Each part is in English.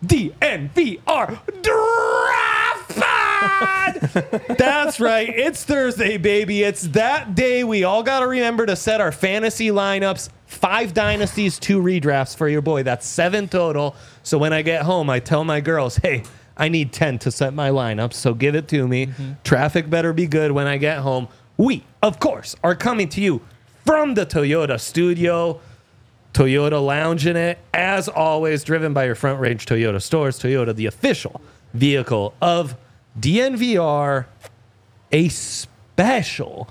DNVR Draft Pod! That's right. It's Thursday, baby. It's that day we all got to remember to set our fantasy lineups. 5 dynasties, 2 redrafts for your boy. That's 7 total. So when I get home, I tell my girls, hey, I need 10 to set my lineup, so give it to me. Traffic better be good when I get home. We, of course, are coming to you from the Toyota studio. Toyota Lounge in it, as always, driven by your Front Range Toyota stores. Toyota, the official vehicle of DNVR. A special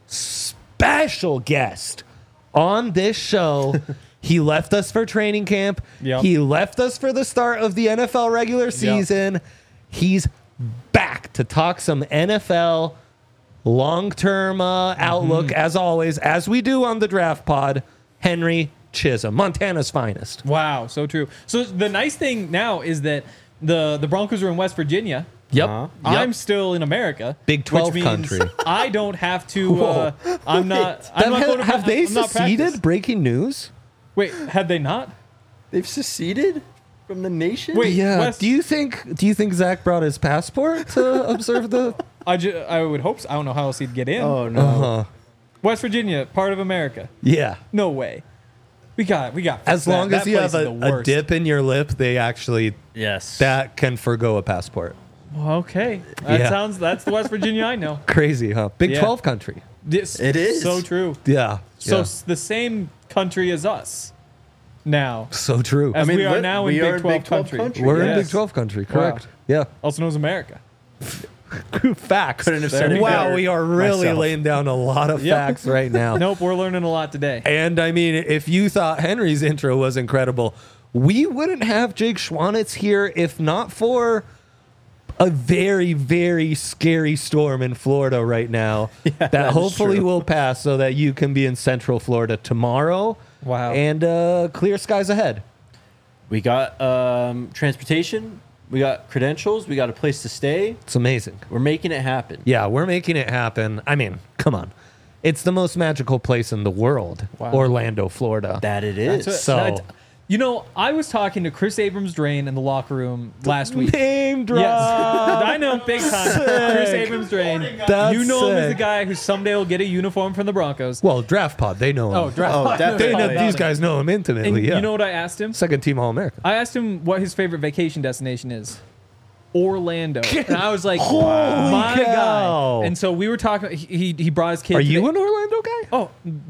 guest on this show. He left us for training camp. Yep. He left us for the start of the NFL regular season. He's back to talk some NFL long-term outlook, as always, as we do on the Draft Pod. Henry Chisholm, Montana's finest. Wow, so true. So the nice thing now is that the Broncos are in West Virginia. Yep. I'm still in America. Big 12 which means country. I don't have to. I'm not. I'm not going to Have they I'm not seceded? practice. Breaking news? Wait, had they not? They've seceded from the nation? Wait, Yeah. West- Do you think Zach brought his passport to observe the? I would hope so. I don't know how else he'd get in. Oh, no. West Virginia, part of America. Yeah. No way. We got. As long as you have place is the a worst. dip in your lip, they actually Yes. that can forgo a passport. Well, okay. Yeah. That's the West Virginia I know. Crazy, huh? Big Yeah. 12 country. This, It is. so true. Yeah. So yeah. it's the same country as us now, So true. as we are now in we are Big 12 country. We're in Yes. Big 12 country, correct? Yeah. Also known as America. Facts. Couldn't have There said you it go. Wow, better we are really myself. laying down a lot of Yep. facts right now. Nope, we're learning a lot today. And I mean, if you thought Henry's intro was incredible, we wouldn't have Jake Schwanitz here if not for a very, very scary storm in Florida right now that is hopefully true. will pass so that you can be in Central Florida tomorrow. Wow. And clear skies ahead. We got transportation. We got credentials. We got a place to stay. It's amazing. We're making it happen. Yeah, we're making it happen. I mean, come on. It's the most magical place in the world, Wow. Orlando, Florida. That it That's is. it. So- You know, I was talking to Chris Abrams-Drain in the locker room last week. Name drop. Yes, I know, big time. Chris Abrams-Drain. That's You know him as the sick. guy who someday will get a uniform from the Broncos. Well, Draft Pod, they know him. Oh, draft. Oh, definitely. They know, Probably these guys know him And intimately. Yeah. you know what I asked him? Second team All American. I asked him what his favorite vacation destination is. Orlando. And I was like, Holy my cow. guy. And so we were talking. He brought his kid. Are to you the- an Orlando guy? Oh,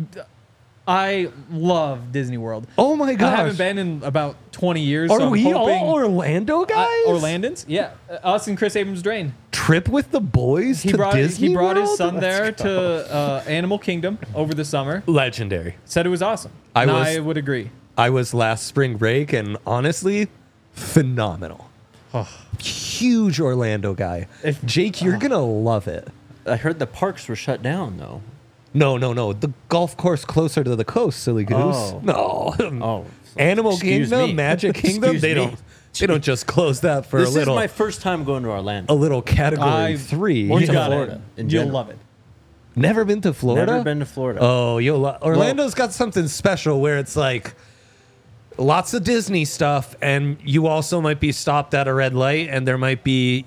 I love Disney World. Oh my gosh. I haven't been in about 20 years. Are so I'm we hoping, all Orlando guys? Orlandans? Yeah. Us and Chris Abrams-Drain. Trip with the boys He to brought Disney he brought his World? son there to Animal Kingdom over the summer. Legendary. Said it was awesome. I And was- I would agree. I was last spring break and honestly, phenomenal. Huge Orlando guy. Jake, you're going to love it. I heard the parks were shut down, though. No. The golf course closer to the coast, silly goose. Oh. No. Oh. Animal Excuse Kingdom, me. Magic Kingdom, Excuse they me. don't just close that for This a is little my first time going to Orlando. a little category I- 3. Or You to got Florida, it. in You'll general. love it. Never been to Florida? Never been to Florida. Oh, Orlando's got something special where it's like lots of Disney stuff, and you also might be stopped at a red light, and there might be,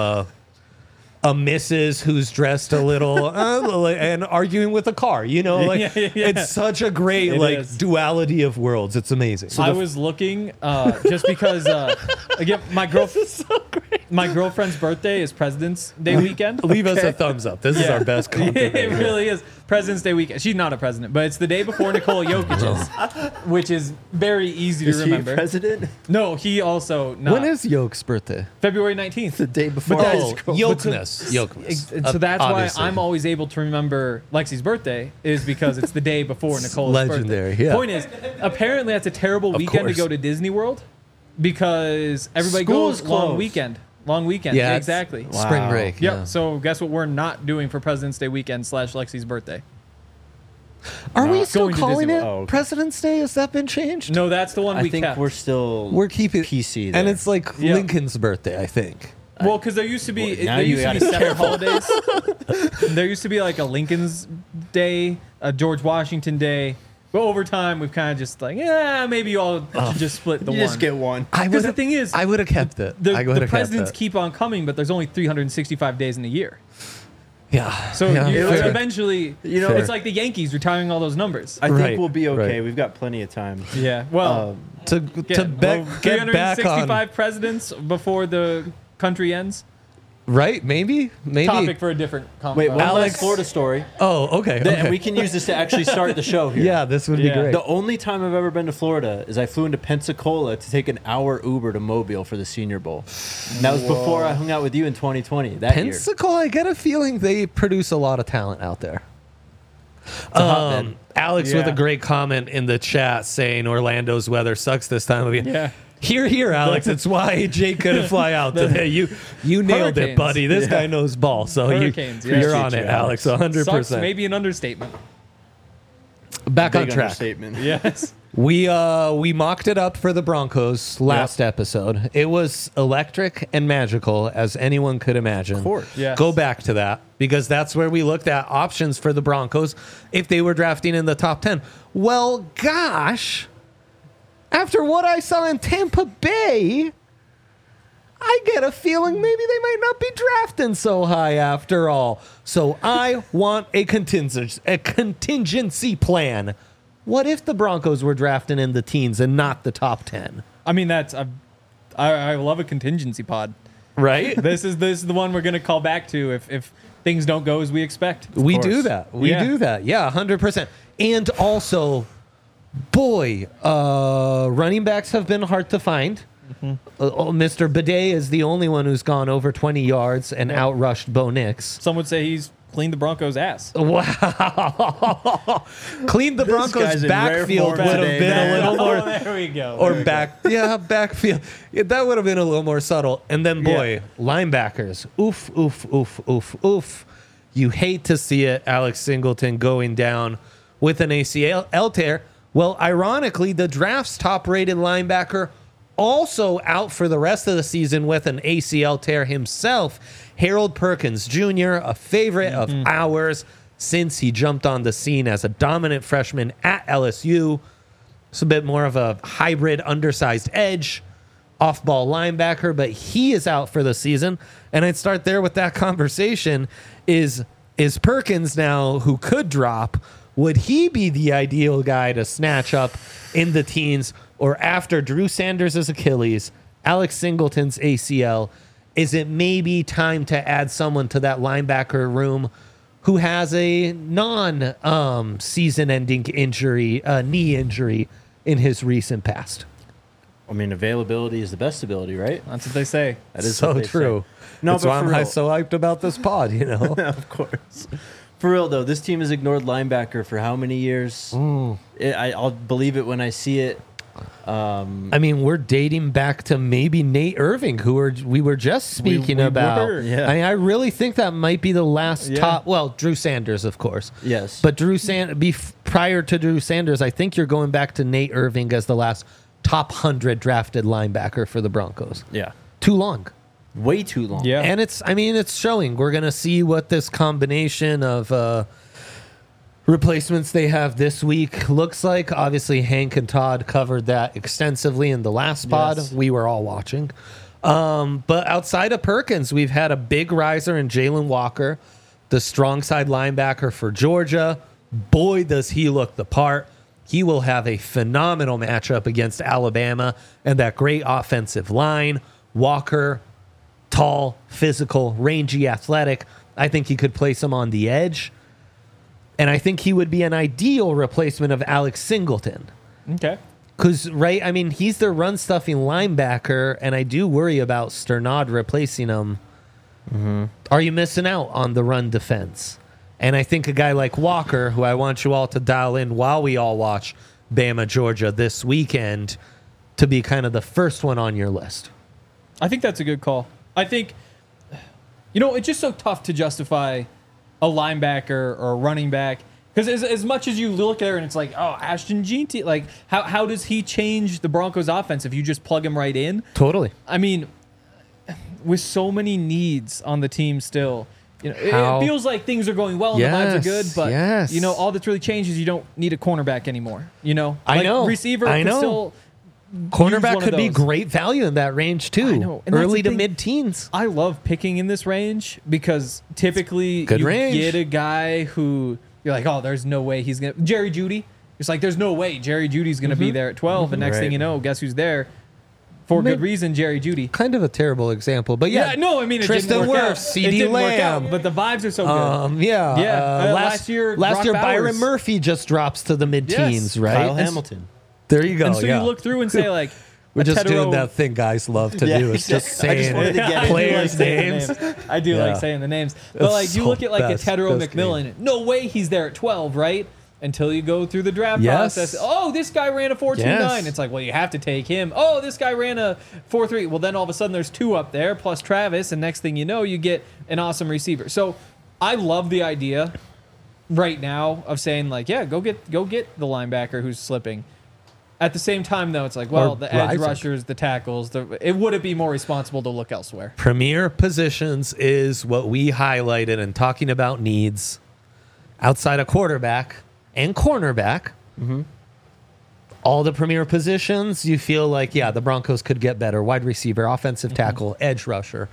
a missus who's dressed a little and arguing with a car. Yeah. It's such a great It is. duality of worlds. It's amazing. I was looking just because again my girlfriend's birthday is President's Day weekend. Leave us a thumbs up. This is our best compliment. It really is President's Day weekend. She's not a president, but it's the day before Nikola Jokic's, which is very easy Is to he remember. president? No, he also not. When is Yoke's birthday? February 19th. The day before. But high that's- school. Yokeness. So that's why Obviously. I'm always able to remember Lexi's birthday is because it's the day before Nicola's legendary, birthday. yeah. Point is, apparently that's a terrible weekend to course. go to Disney World because everybody School goes is long closed. weekend. Long weekend. Yeah, Yeah, it's- exactly. Wow. Spring break. Yep. Yeah. So guess what we're not doing for President's Day weekend / Lexi's birthday? Are we Not still going to calling Disney it World. Oh, okay. President's Day? Has that been changed? No, that's the one I we think kept. we're still We're keeping PC and there. it's like Yeah. Lincoln's birthday, I think. Well, because there used to be Well, now there you used to be gotta be separate holidays. There used to be like a Lincoln's Day, a George Washington Day, But over time, we've kind of just like, yeah, maybe you all should just split the You one. just get one. Because the thing is, I would have kept it. the presidents keep on coming, but there's only 365 days in a year. Yeah. So yeah, you fair. eventually, Fair. it's like the Yankees retiring all those numbers. I think Right, we'll be okay. right. We've got plenty of time. Yeah. Well, to get back on 365 presidents before the country ends. right? Maybe Topic for a different Wait, one Alex- last Florida story. Oh, okay. And we can use this to actually start the show here. Yeah, this would be Yeah. great. The only time I've ever been to Florida is I flew into Pensacola to take an hour Uber to Mobile for the Senior Bowl. And that was before I hung out with you in 2020. That year. Pensacola, I get a feeling they produce a lot of talent out there. hotbed. Alex with a Yeah. great comment in the chat saying Orlando's weather sucks this time of year. Yeah. Here, Alex. It's why Jake couldn't fly out today. You nailed it, Hurricanes. buddy. This guy knows ball. So Hurricanes, yeah. you're on Appreciate it, you, Alex. Alex. 100%. Sucks, maybe an understatement. Back on Big track. understatement. Yes. We mocked it up for the Broncos last episode. It was electric and magical as anyone could imagine. Of course. Yes. Go back to that because that's where we looked at options for the Broncos if they were drafting in the top 10. Well, gosh, after what I saw in Tampa Bay, I get a feeling maybe they might not be drafting so high after all. So I want a contingency plan. What if the Broncos were drafting in the teens and not the top 10? I mean, I love a contingency pod. Right? This is the one we're going to call back to if things don't go as we expect. We course. do that. We Yeah. do that. Yeah, 100%. And also, boy, running backs have been hard to find. Mr. Bidet is the only one who's gone over 20 yards and outrushed Bo Nix. Some would say he's cleaned the Broncos' ass. Wow. Clean the Broncos guy's in rare backfield form would have today, been man. a little more. Oh, there we go. Or There we go. backfield. Yeah, that would have been a little more subtle. And then, boy, linebackers. Oof, oof, oof, oof, oof. You hate to see it, Alex Singleton going down with an ACL tear. Well, ironically, the draft's top-rated linebacker also out for the rest of the season with an ACL tear himself. Harold Perkins Jr., a favorite of ours since he jumped on the scene as a dominant freshman at LSU. It's a bit more of a hybrid, undersized edge, off-ball linebacker, but he is out for the season. And I'd start there with that conversation. Is Perkins now, who could drop, would he be the ideal guy to snatch up in the teens? Or after Drew Sanders' Achilles, Alex Singleton's ACL, is it maybe time to add someone to that linebacker room who has a non-season-ending injury, knee injury in his recent past? I mean, availability is the best ability, right? That's what they say. That is So what they true. say. No, That's but why for I'm real. so hyped about this pod, you know? Of course. For real, though, this team has ignored linebacker for how many years? I'll believe it when I see it. I mean, we're dating back to maybe Nate Irving, we were just speaking we about. were, yeah. I mean, I really think that might be the last Yeah. top. Well, Drew Sanders, of course. Yes. But prior to Drew Sanders, I think you're going back to Nate Irving as the last top 100 drafted linebacker for the Broncos. Yeah. Too long. Way too long. Yeah. And it's showing. We're going to see what this combination of replacements they have this week looks like. Obviously, Hank and Todd covered that extensively in the last pod. Yes. We were all watching. But outside of Perkins, we've had a big riser in Jalen Walker, the strong side linebacker for Georgia. Boy, does he look the part. He will have a phenomenal matchup against Alabama and that great offensive line. Walker, tall, physical, rangy, athletic. I think he could place him on the edge. And I think he would be an ideal replacement of Alex Singleton. Okay. Because, right, I mean, he's their run-stuffing linebacker, and I do worry about Sternad replacing him. Are you missing out on the run defense? And I think a guy like Walker, who I want you all to dial in while we all watch Bama, Georgia this weekend, to be kind of the first one on your list. I think that's a good call. I think, it's just so tough to justify a linebacker or a running back. Because as much as you look there and it's like, oh, Ashton Jeanty, like, how does he change the Broncos offense if you just plug him right in? Totally. I mean, with so many needs on the team still, How- it feels like things are going well and the vibes are good, Yes, but yes. all that's really changed is you don't need a cornerback anymore. I know. Receiver I can know. still Cornerback one of could be those. great value in that range too. I know, and that's Early the to thing. mid-teens. I love picking in this range because typically Good you range. get a guy who you're like, oh, there's no way he's gonna Jerry Jeudy. It's like there's no way Jerry Judy's gonna be there at 12, and next thing Right. you know, guess who's there? For good reason, Jerry Jeudy. Kind of a terrible example, but yeah. No, I mean it Tristan didn't work out. Wirfs, CD It didn't work out, Lamb. but the vibes are so good. Last year, Brock Brock Byron Bowers. Murphy just drops to the mid-teens, Yes. right? Kyle And Hamilton. There you go. and so yeah. you look through and say like, We're just doing Hetero- that thing guys love to Yeah, do. It's just exactly. I just saying wanted to get it. players' saying names. the names. I do Yeah. like saying the names. But That's like you so look at like best- a Tedero best McMillan, no way he's there at 12, right? Until you go through the draft Yes. process. Oh, this guy ran a 4.29. Yes. It's like, well, you have to take him. Oh, this guy ran a 4.3. Well, then all of a sudden there's two up there plus Travis, and next thing you know, you get an awesome receiver. So I love the idea right now of saying like, yeah, go get the linebacker who's slipping. At the same time, though, it's like, well, Or the edge rising. rushers, the tackles, would it be more responsible to look elsewhere? Premier positions is what we highlighted in talking about needs outside of quarterback and cornerback. All the premier positions, you feel like, yeah, the Broncos could get better. Wide receiver, offensive tackle, edge rusher.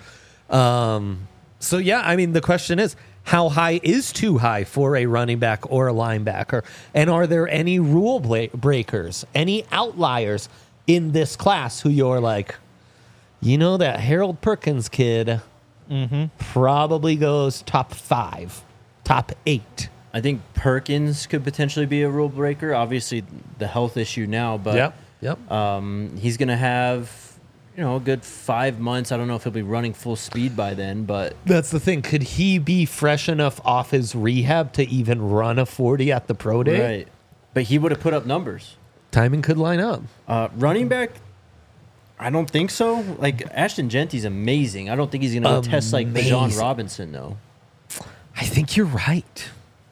So, yeah, I mean, the question is, how high is too high for a running back or a linebacker? And are there any rule breakers, any outliers in this class who you're like, that Harold Perkins kid probably goes top 5, top 8. I think Perkins could potentially be a rule breaker. Obviously, the health issue now, but Yep. he's going to have a good 5 months. I don't know if he'll be running full speed by then, but That's the thing. Could he be fresh enough off his rehab to even run a 40 at the pro day? right. But he would have put up numbers. Timing could line up. Running back, I don't think so. Like Ashton Genty's amazing. I don't think he's going to test like Bijan Amazing. Robinson though. I think you're right.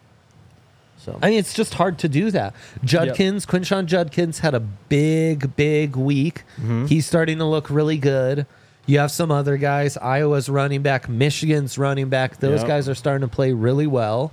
So I mean, it's just hard to do that. Quinshawn Judkins had a big week. He's starting to look really good. You have some other guys. Iowa's running back, Michigan's running back. Those Yep. guys are starting to play really well.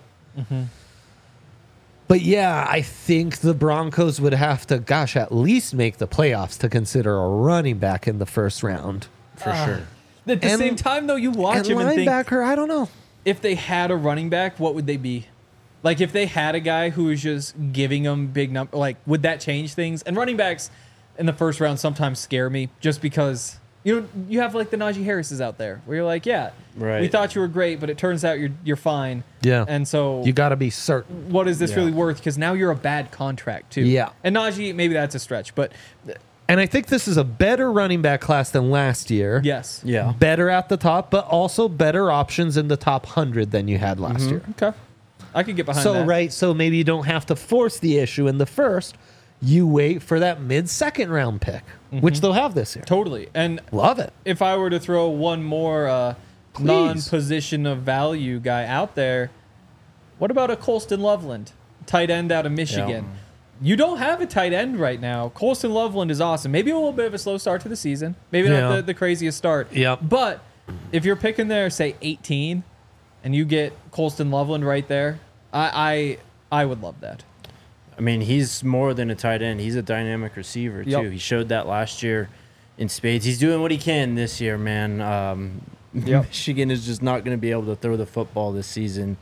But yeah, I think the Broncos would have to, at least make the playoffs to consider a running back in the first round. for sure. At the And- same time, though, you watch And him and think, linebacker, I don't know. if they had a running back, what would they be? Like, if they had a guy who was just giving them big number, like, would that change things? And running backs in the first round sometimes scare me just because, you have, like, the Najee Harrises out there where you're like, yeah, we Right. thought you were great, but it turns out you're fine. Yeah. And so You got to be certain. what is this Yeah. really worth? Because now you're a bad contract, too. Yeah. And Najee, maybe that's a stretch, but And I think this is a better running back class than last year. yes. Yeah. Better at the top, but also better options in the top 100 than you had last year. Okay. I could get behind So, that. right, so maybe you don't have to force the issue in the first. You wait for that mid-second round pick, which they'll have this year. Totally. And Love it. if I were to throw one more Please. non-position of value guy out there, what about a Colston Loveland, tight end out of Michigan? You don't have a tight end right now. Colston Loveland is awesome. Maybe a little bit of a slow start to the season. Maybe Yeah. not the craziest start. Yep. But if you're picking there, say 18, and you get Colston Loveland right there, I would love that. I mean, he's more than a tight end. He's a dynamic receiver, too. Yep. He showed that last year in spades. He's doing what he can this year, man. Yep. Michigan is just not going to be able to throw the football this season.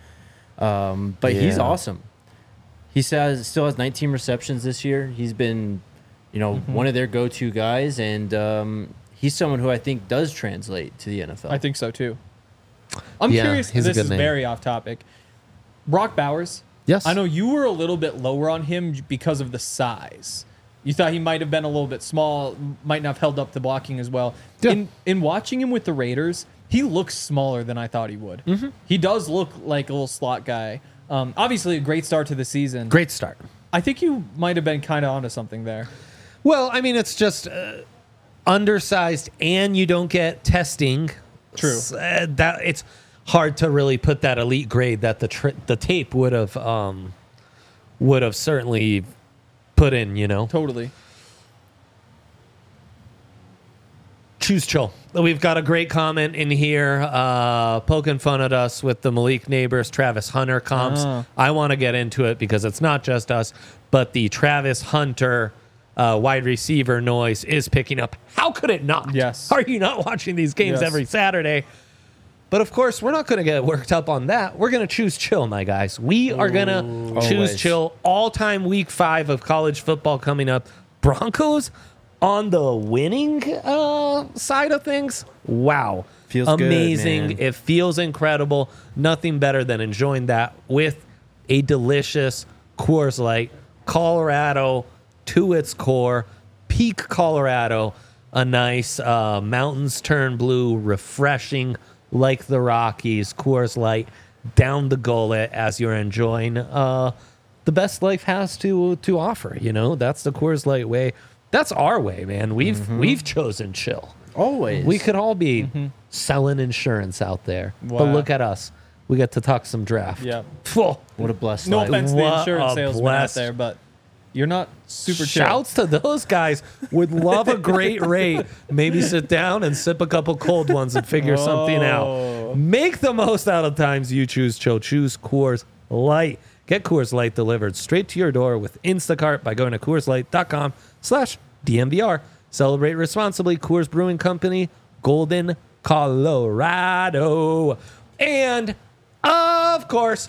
But he's Yeah. awesome. He still has 19 receptions this year. He's been, one of their go-to guys, and he's someone who I think does translate to the NFL. I think so too. I'm Yeah, curious. he's a This good is name. very off topic. Brock Bowers. Yes. I know you were a little bit lower on him because of the size. You thought he might have been a little bit small, might not have held up the blocking as well. Yeah. In watching him with the Raiders, he looks smaller than I thought he would. He does look like a little slot guy. Obviously, a great start to the season. Great start. I think you might have been kind of onto something there. Well, I mean, it's just undersized, and you don't get testing. True. That it's hard to really put that elite grade that the tape would have certainly put in. Totally. Choose chill. We've got a great comment in here poking fun at us with the Malik Neighbors, Travis Hunter comps. I want to get into it because it's not just us, but the Travis Hunter wide receiver noise is picking up. How could it not? Yes. Are you not watching these games Yes. every Saturday? But of course, we're not going to get worked up on that. We're going to choose chill, my guys. We are going to choose Always. chill. All-time week 5 of college football coming up. Broncos on the winning side of things. Wow. Feels good, amazing. man. It feels incredible. Nothing better than enjoying that with a delicious Coors Light. Colorado to its core. Peak Colorado. A nice mountains turn blue, refreshing like the Rockies. Coors Light down the gullet as you're enjoying the best life has to offer. You know, that's the Coors Light way. That's our way, man. We've chosen chill. Always. We could all be selling insurance out there, but Wow. look at us. We get to talk some draft. Yep. Phew. What a blessed No life. offense to the What insurance a salesman blessed- out there, but you're not super chill. Shouts to those guys. Would love a great rate. Maybe sit down and sip a couple cold ones and figure something out. Make the most out of times you choose chill. Choose Coors Light. Get Coors Light delivered straight to your door with Instacart by going to CoorsLight.com/DMVR. Celebrate responsibly. Coors Brewing Company, Golden, Colorado. And, of course,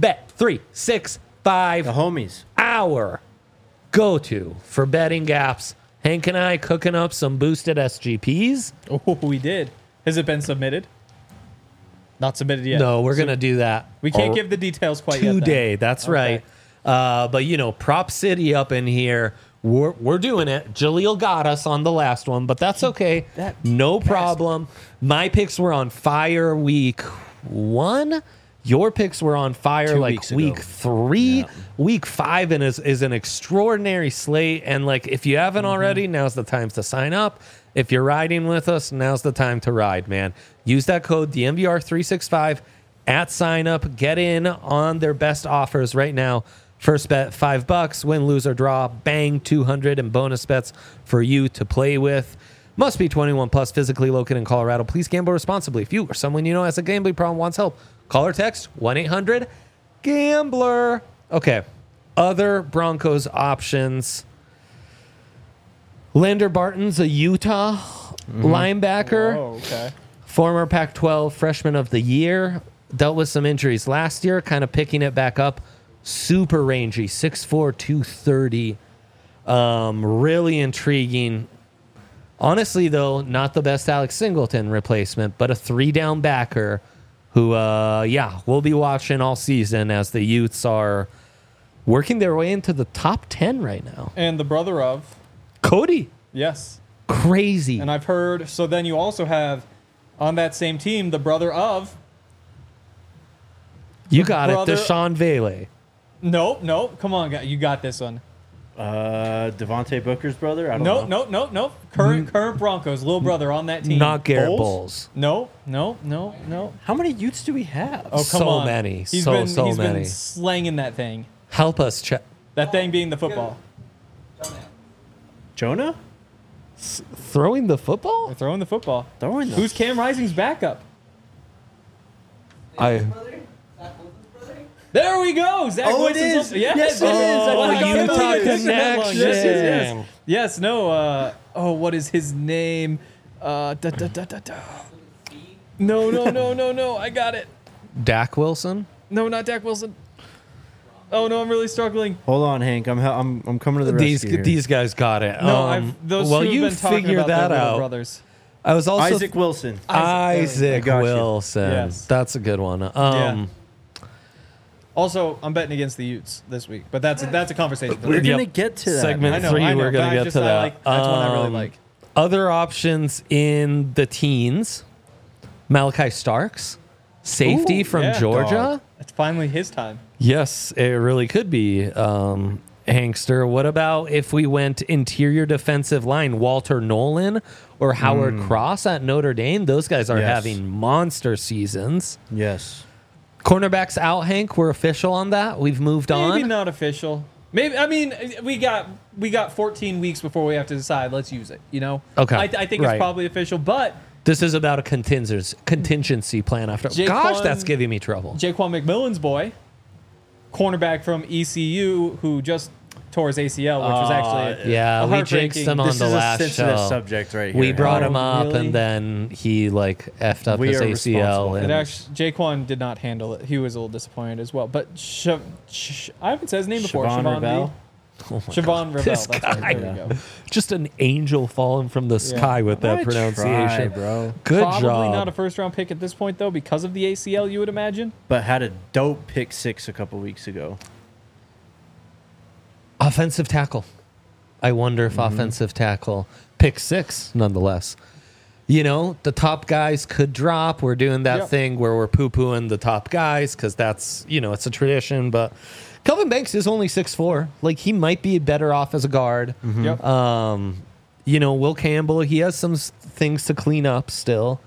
Bet365. The homies. Our go-to for betting gaps. Hank and I cooking up some boosted SGPs. Oh, we did. Has it been submitted? Not submitted yet. No, we're going to do that. We can't give the details quite yet. then. today. That's right. But, you know, Prop City up in here. We're doing it. Jaleel got us on the last one, but that's okay. No problem. My picks were on fire week 1. Your picks were on fire 2 like weeks ago. week 3. Yeah. Week 5 and is an extraordinary slate. And like, if you haven't already, now's the time to sign up. If you're riding with us, now's the time to ride, man. Use that code DMVR365 at sign up. Get in on their best offers right now. First bet $5, win, lose, or draw. Bang, 200 in bonus bets for you to play with. Must be 21 plus, physically located in Colorado. Please gamble responsibly. If you or someone you know has a gambling problem wants help, call or text 1-800-GAMBLER. Okay, other Broncos options. Lander Barton's a Utah linebacker. Oh, okay. Former Pac-12 Freshman of the Year. Dealt with some injuries last year, kind of picking it back up. Super rangy, 6'4", 230. Really intriguing. Honestly, though, not the best Alex Singleton replacement, but a 3-down backer who, we'll be watching all season as the Utes are working their way into the top 10 right now. And the brother of, Cody. yes. Crazy. And I've heard, so then you also have on that same team, the brother of, You got brother- it, Deshaun Vele. nope, come on, guy, you got this one. Devontae Booker's brother? I don't know. No. Current Broncos, little brother on that team. Not Garrett Bowles. No. How many Utes do we have? Oh, come So on. many. He's So been many. slanging that thing. Help us, check. That thing being the football. Jonah? Throwing the football? They're throwing the football. Throwing the Who's Cam Rising's backup? There we go. Zach Oh, it Wilson's is. up- Yes, Yes, it is. I Oh, forgot Utah about it. connection. Connection. Yes. No. What is his name? No. I got it. Dak Wilson? No, not Dak Wilson. Oh no, I'm really struggling. Hold on, Hank. I'm coming to the rescue here. These guys got it. No, those well, two have you been talking figure about that their little out. brothers. I was also Isaac Wilson. Isaac I got you. Wilson. Yes. That's a good one. Yeah. Also, I'm betting against the Utes this week, but that's a conversation. for We're later. gonna get to that. Segment I know, 3, I know, we're going but to get just- to that. that's one I really like. Other options in the teens. Malachi Starks, safety Ooh, from yeah, Georgia. dog. It's finally his time. Yes, it really could be. Hankster. What about if we went interior defensive line, Walter Nolan or Howard Cross at Notre Dame? Those guys are Yes. having monster seasons. Yes. Cornerbacks out, Hank. We're official on that. We've moved Maybe on. not official. Maybe I mean we got 14 weeks before we have to decide. Let's use it. You know. Okay, I think right. it's probably official, but This is about a contingency plan after. Gosh, that's giving me trouble. Jaquan McMillan's boy, cornerback from ECU, who just tore his ACL, which was actually Yeah, a we jinxed him heartbreaking- on This the is a last sensitive show. subject right here. We brought Oh, him up, really? and then he like effed up We his are ACL. responsible. And It actually, Jaquan did not handle it. He was a little disappointed as well. But I haven't said his name before. Siobhan Ravel? Siobhan Ravel. This That's guy. right. There we go. just an angel falling from the sky with that I pronunciation. try, bro. Good Probably job. not a first-round pick at this point, though, because of the ACL, you would imagine. But had a dope pick 6 a couple weeks ago. Offensive tackle. I wonder if offensive tackle pick 6, nonetheless. You know, the top guys could drop. We're doing that Yep. thing where we're poo-pooing the top guys because that's, you know, it's a tradition. But Kelvin Banks is only 6'4". Like, he might be better off as a guard. Yep. You know, Will Campbell, he has some things to clean up still.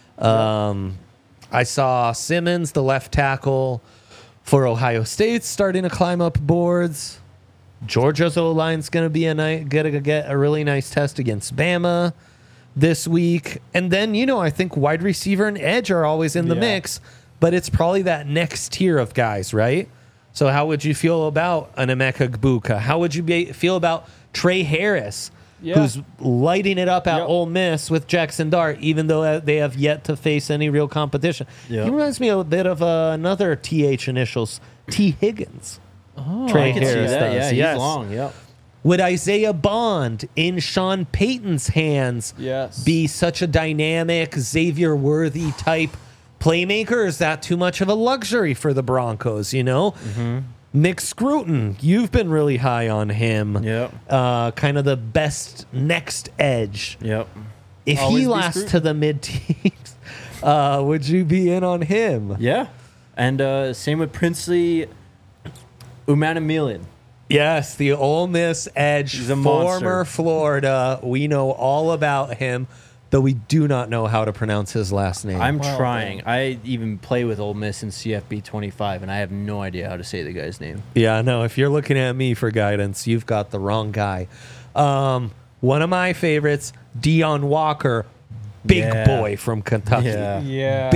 I saw Simmons, the left tackle for Ohio State, starting to climb up boards. Georgia's O-line's going to be get a really nice test against Bama this week. And then, you know, I think wide receiver and edge are always in the Yeah. mix, but it's probably that next tier of guys, right? So how would you feel about an Emeka Egbuka? How would you feel about Trey Harris, Yeah. who's lighting it up at Yep. Ole Miss with Jackson Dart, even though they have yet to face any real competition? Yep. He reminds me a bit of another TH initials, T. Higgins. Oh, Trey I can see Harris that. does, Yeah, he's yes. long. Yep. Would Isaiah Bond in Sean Payton's hands Yes. be such a dynamic, Xavier Worthy type playmaker? Or is that too much of a luxury for the Broncos, you know? Nick Scruton, you've been really high on him. Yep. Kind of the best next edge. Yep. If Always he be lasts Scruton. to the mid-teens, would you be in on him? Yeah. And same with Princely Umanamilian. Yes, the Ole Miss edge, He's a former monster. Florida. We know all about him, though we do not know how to pronounce his last name. I'm Wow, trying. man. I even play with Ole Miss in CFB 25, and I have no idea how to say the guy's name. Yeah, no, if you're looking at me for guidance, you've got the wrong guy. One of my favorites, Deion Walker, big Yeah. boy from Kentucky. Yeah. Yeah.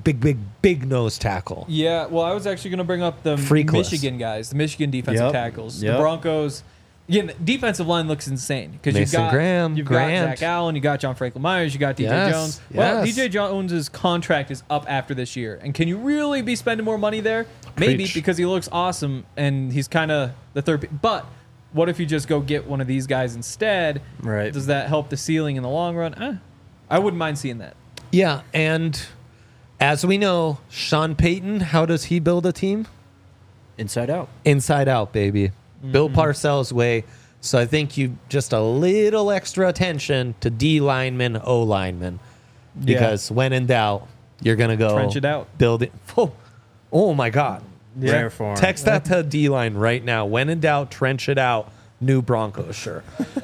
Big nose tackle. Yeah, well, I was actually going to bring up the Freakless. Michigan guys, the Michigan defensive Yep. tackles. Yep. The Broncos, again, the defensive line looks insane because you've Mason got Graham, you've Grant. got Zach Allen, you got John Franklin Myers, you got DJ Yes, Jones. Well, yes. DJ Jones's contract is up after this year, and can you really be spending more money there? Maybe Preach. because he looks awesome and he's kind of the third. But what if you just go get one of these guys instead? Right. Does that help the ceiling in the long run? I wouldn't mind seeing that. Yeah, and as we know, Sean Payton, how does he build a team? Inside out. Inside out, baby. Bill Parcells' way. So I think you just a little extra attention to D linemen, O linemen. Because when in doubt, you're going to go Trench it out. build it. Oh my God. Rare form. Text that to D line right now. When in doubt, trench it out. New Broncos, sure.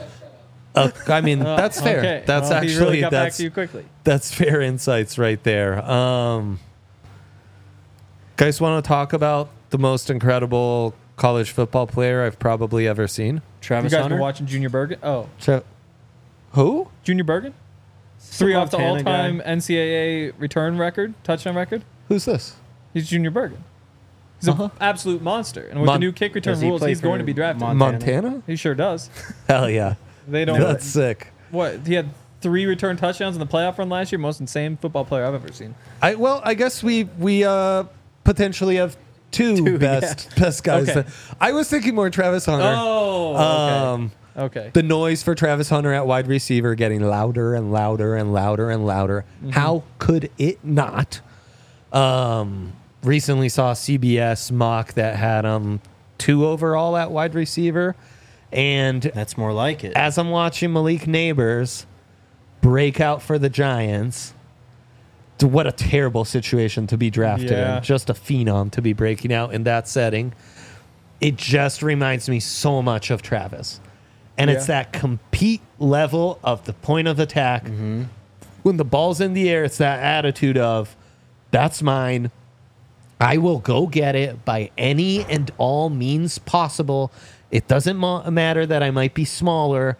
I mean, that's fair. Okay. That's Well, he actually really got back that's to you quickly. that's fair insights right there. Guys, want to talk about the most incredible college football player I've probably ever seen? You Travis guys Hunter. been watching Junior Bergen? Oh, Who? Junior Bergen? Some 3 off the Montana guy. all-time NCAA return record, touchdown record. Who's this? He's Junior Bergen. He's an absolute monster. And with the new kick return Does he rules, play he's going for to be drafted. Montana? Montana? He sure does. Hell yeah. They don't. That's sick. What? He had 3 return touchdowns in the playoff run last year. Most insane football player I've ever seen. I guess we potentially have two best guys. Okay. I was thinking more Travis Hunter. Oh, okay. The noise for Travis Hunter at wide receiver getting louder and louder and louder and louder. How could it not? Recently saw a CBS mock that had 2 overall at wide receiver. And That's more like it. as I'm watching Malik Neighbors break out for the Giants, what a terrible situation to be drafted Yeah. in. Just a phenom to be breaking out in that setting. It just reminds me so much of Travis. And it's Yeah. that compete level of the point of attack. When the ball's in the air, it's that attitude of, that's mine. I will go get it by any and all means possible. It doesn't matter that I might be smaller.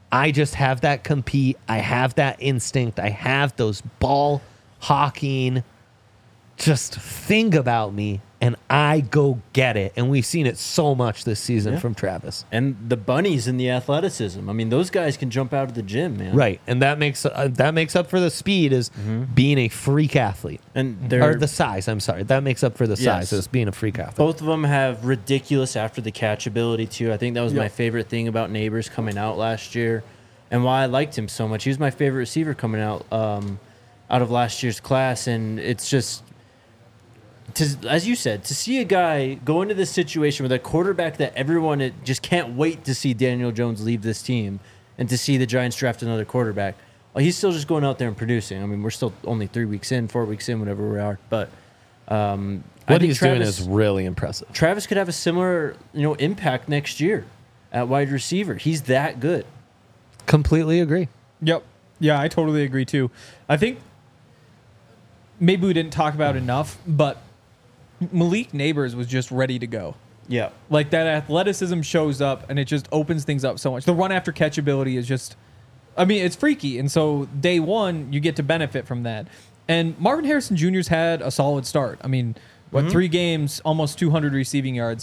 I just have that compete. I have that instinct. I have those ball hawking just thing about me, and I go get it. And we've seen it so much this season from Travis. And the bunnies in the athleticism. I mean, those guys can jump out of the gym, man. Right, and that makes up for the speed is being a freak athlete. And Or the size, I'm sorry. That makes up for the size is being a freak athlete. both of them have ridiculous after the catch ability too. I think that was my favorite thing about Neighbors coming out last year, and why I liked him so much. He was my favorite receiver coming out of last year's class, and it's just. As you said, to see a guy go into this situation with a quarterback that everyone just can't wait to see Daniel Jones leave this team, and to see the Giants draft another quarterback, well, he's still just going out there and producing. I mean, we're still only 4 weeks in, whatever we are. But what he's doing is really impressive. Travis could have a similar, impact next year at wide receiver. He's that good. Completely agree. Yep. Yeah, I totally agree too. I think maybe we didn't talk about it enough, but Malik Neighbors was just ready to go. Yeah. Like that athleticism shows up and it just opens things up so much. The run after catch ability is just, I mean, it's freaky. And so day one, you get to benefit from that. And Marvin Harrison Jr.'s had a solid start. I mean, 3 games, almost 200 receiving yards.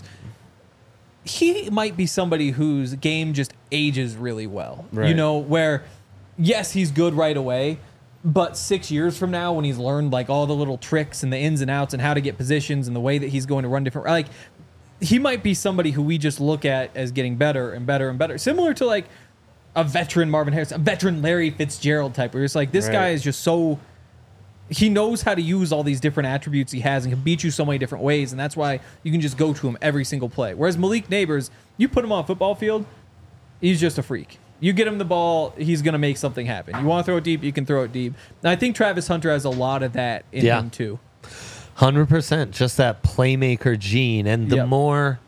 He might be somebody whose game just ages really well. Right. Where, yes, he's good right away. But 6 years from now, when he's learned like all the little tricks and the ins and outs and how to get positions and the way that he's going to run different, like he might be somebody who we just look at as getting better and better and better. Similar to like a veteran Marvin Harrison, a veteran Larry Fitzgerald type, where it's like this guy is just so, he knows how to use all these different attributes he has and can beat you so many different ways. And that's why you can just go to him every single play. Whereas Malik Neighbors, you put him on a football field, he's just a freak. You get him the ball, he's going to make something happen. You want to throw it deep, you can throw it deep. And I think Travis Hunter has a lot of that in him too. 100%. Just that playmaker gene. And the more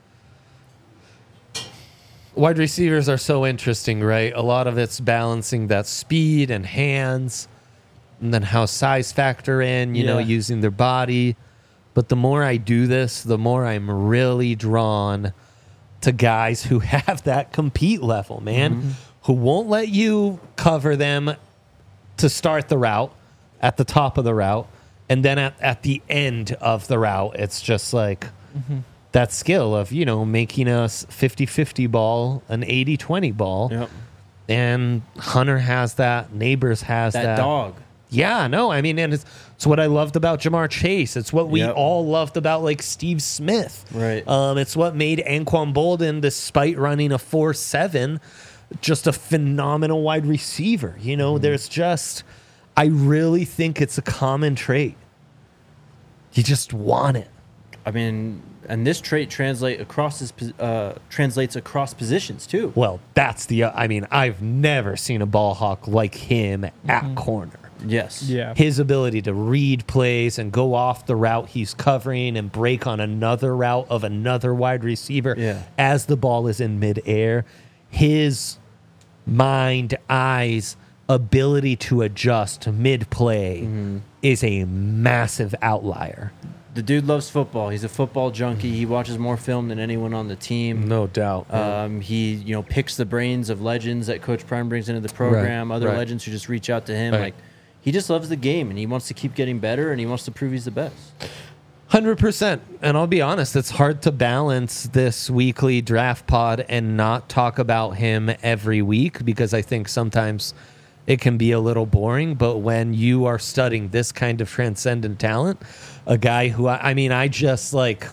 wide receivers are so interesting, right? A lot of it's balancing that speed and hands, and then how size factor in, using their body. But the more I do this, the more I'm really drawn to guys who have that compete level, man, who won't let you cover them to start the route at the top of the route. And then at the end of the route, it's just like that skill of, making a 50-50 ball, an 80-20 ball. Yep. And Hunter has that. Neighbors has that. That dog. Yeah, no, I mean, and it's what I loved about Jamar Chase. It's what we all loved about, like, Steve Smith. Right. It's what made Anquan Bolden, despite running a 4.7, just a phenomenal wide receiver. There's just, I really think it's a common trait. You just want it. I mean, and this trait translates across positions too. Well, that's I've never seen a ball hawk like him at corner. Yes. Yeah. His ability to read plays and go off the route he's covering and break on another route of another wide receiver as the ball is in midair. His mind, eyes, ability to adjust mid-play is a massive outlier. The dude loves football. He's a football junkie. He watches more film than anyone on the team. No doubt. He picks the brains of legends that Coach Prime brings into the program, other legends who just reach out to him. Like, he just loves the game, and he wants to keep getting better, and he wants to prove he's the best. 100%. And I'll be honest, it's hard to balance this weekly draft pod and not talk about him every week, because I think sometimes it can be a little boring. But when you are studying this kind of transcendent talent, a guy who, I just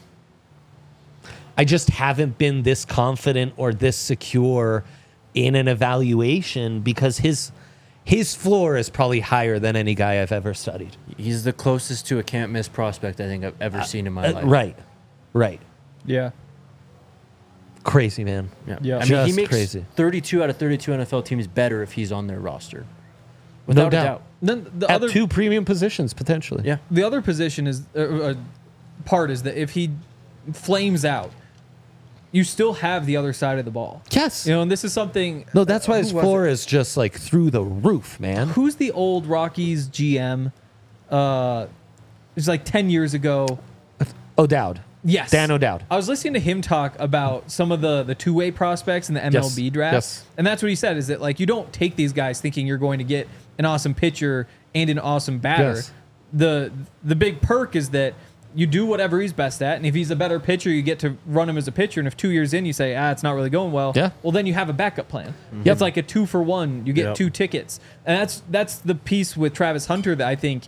haven't been this confident or this secure in an evaluation, because his floor is probably higher than any guy I've ever studied. He's the closest to a can't miss prospect I think I've ever seen in my life. Right. Yeah. Crazy, man. Yeah. I mean, he makes crazy. 32 out of 32 NFL teams better if he's on their roster. Without No a doubt. doubt. Then the At other 2 premium positions, potentially. Yeah. the other position is part is that if he flames out, you still have the other side of the ball. Yes. And this is something. No, that's why his who was floor it? is just like through the roof, man. Who's the old Rockies GM? It's like 10 years ago. O'Dowd. Yes. Dan O'Dowd. I was listening to him talk about some of the two-way prospects in the MLB draft. Yes. And that's what he said, is that like you don't take these guys thinking you're going to get an awesome pitcher and an awesome batter. Yes. The big perk is that you do whatever he's best at, and if he's a better pitcher, you get to run him as a pitcher. And if 2 years in you say, it's not really going well, well, then you have a backup plan. Yep. It's like a 2-for-1. You get 2 tickets, and that's the piece with Travis Hunter that I think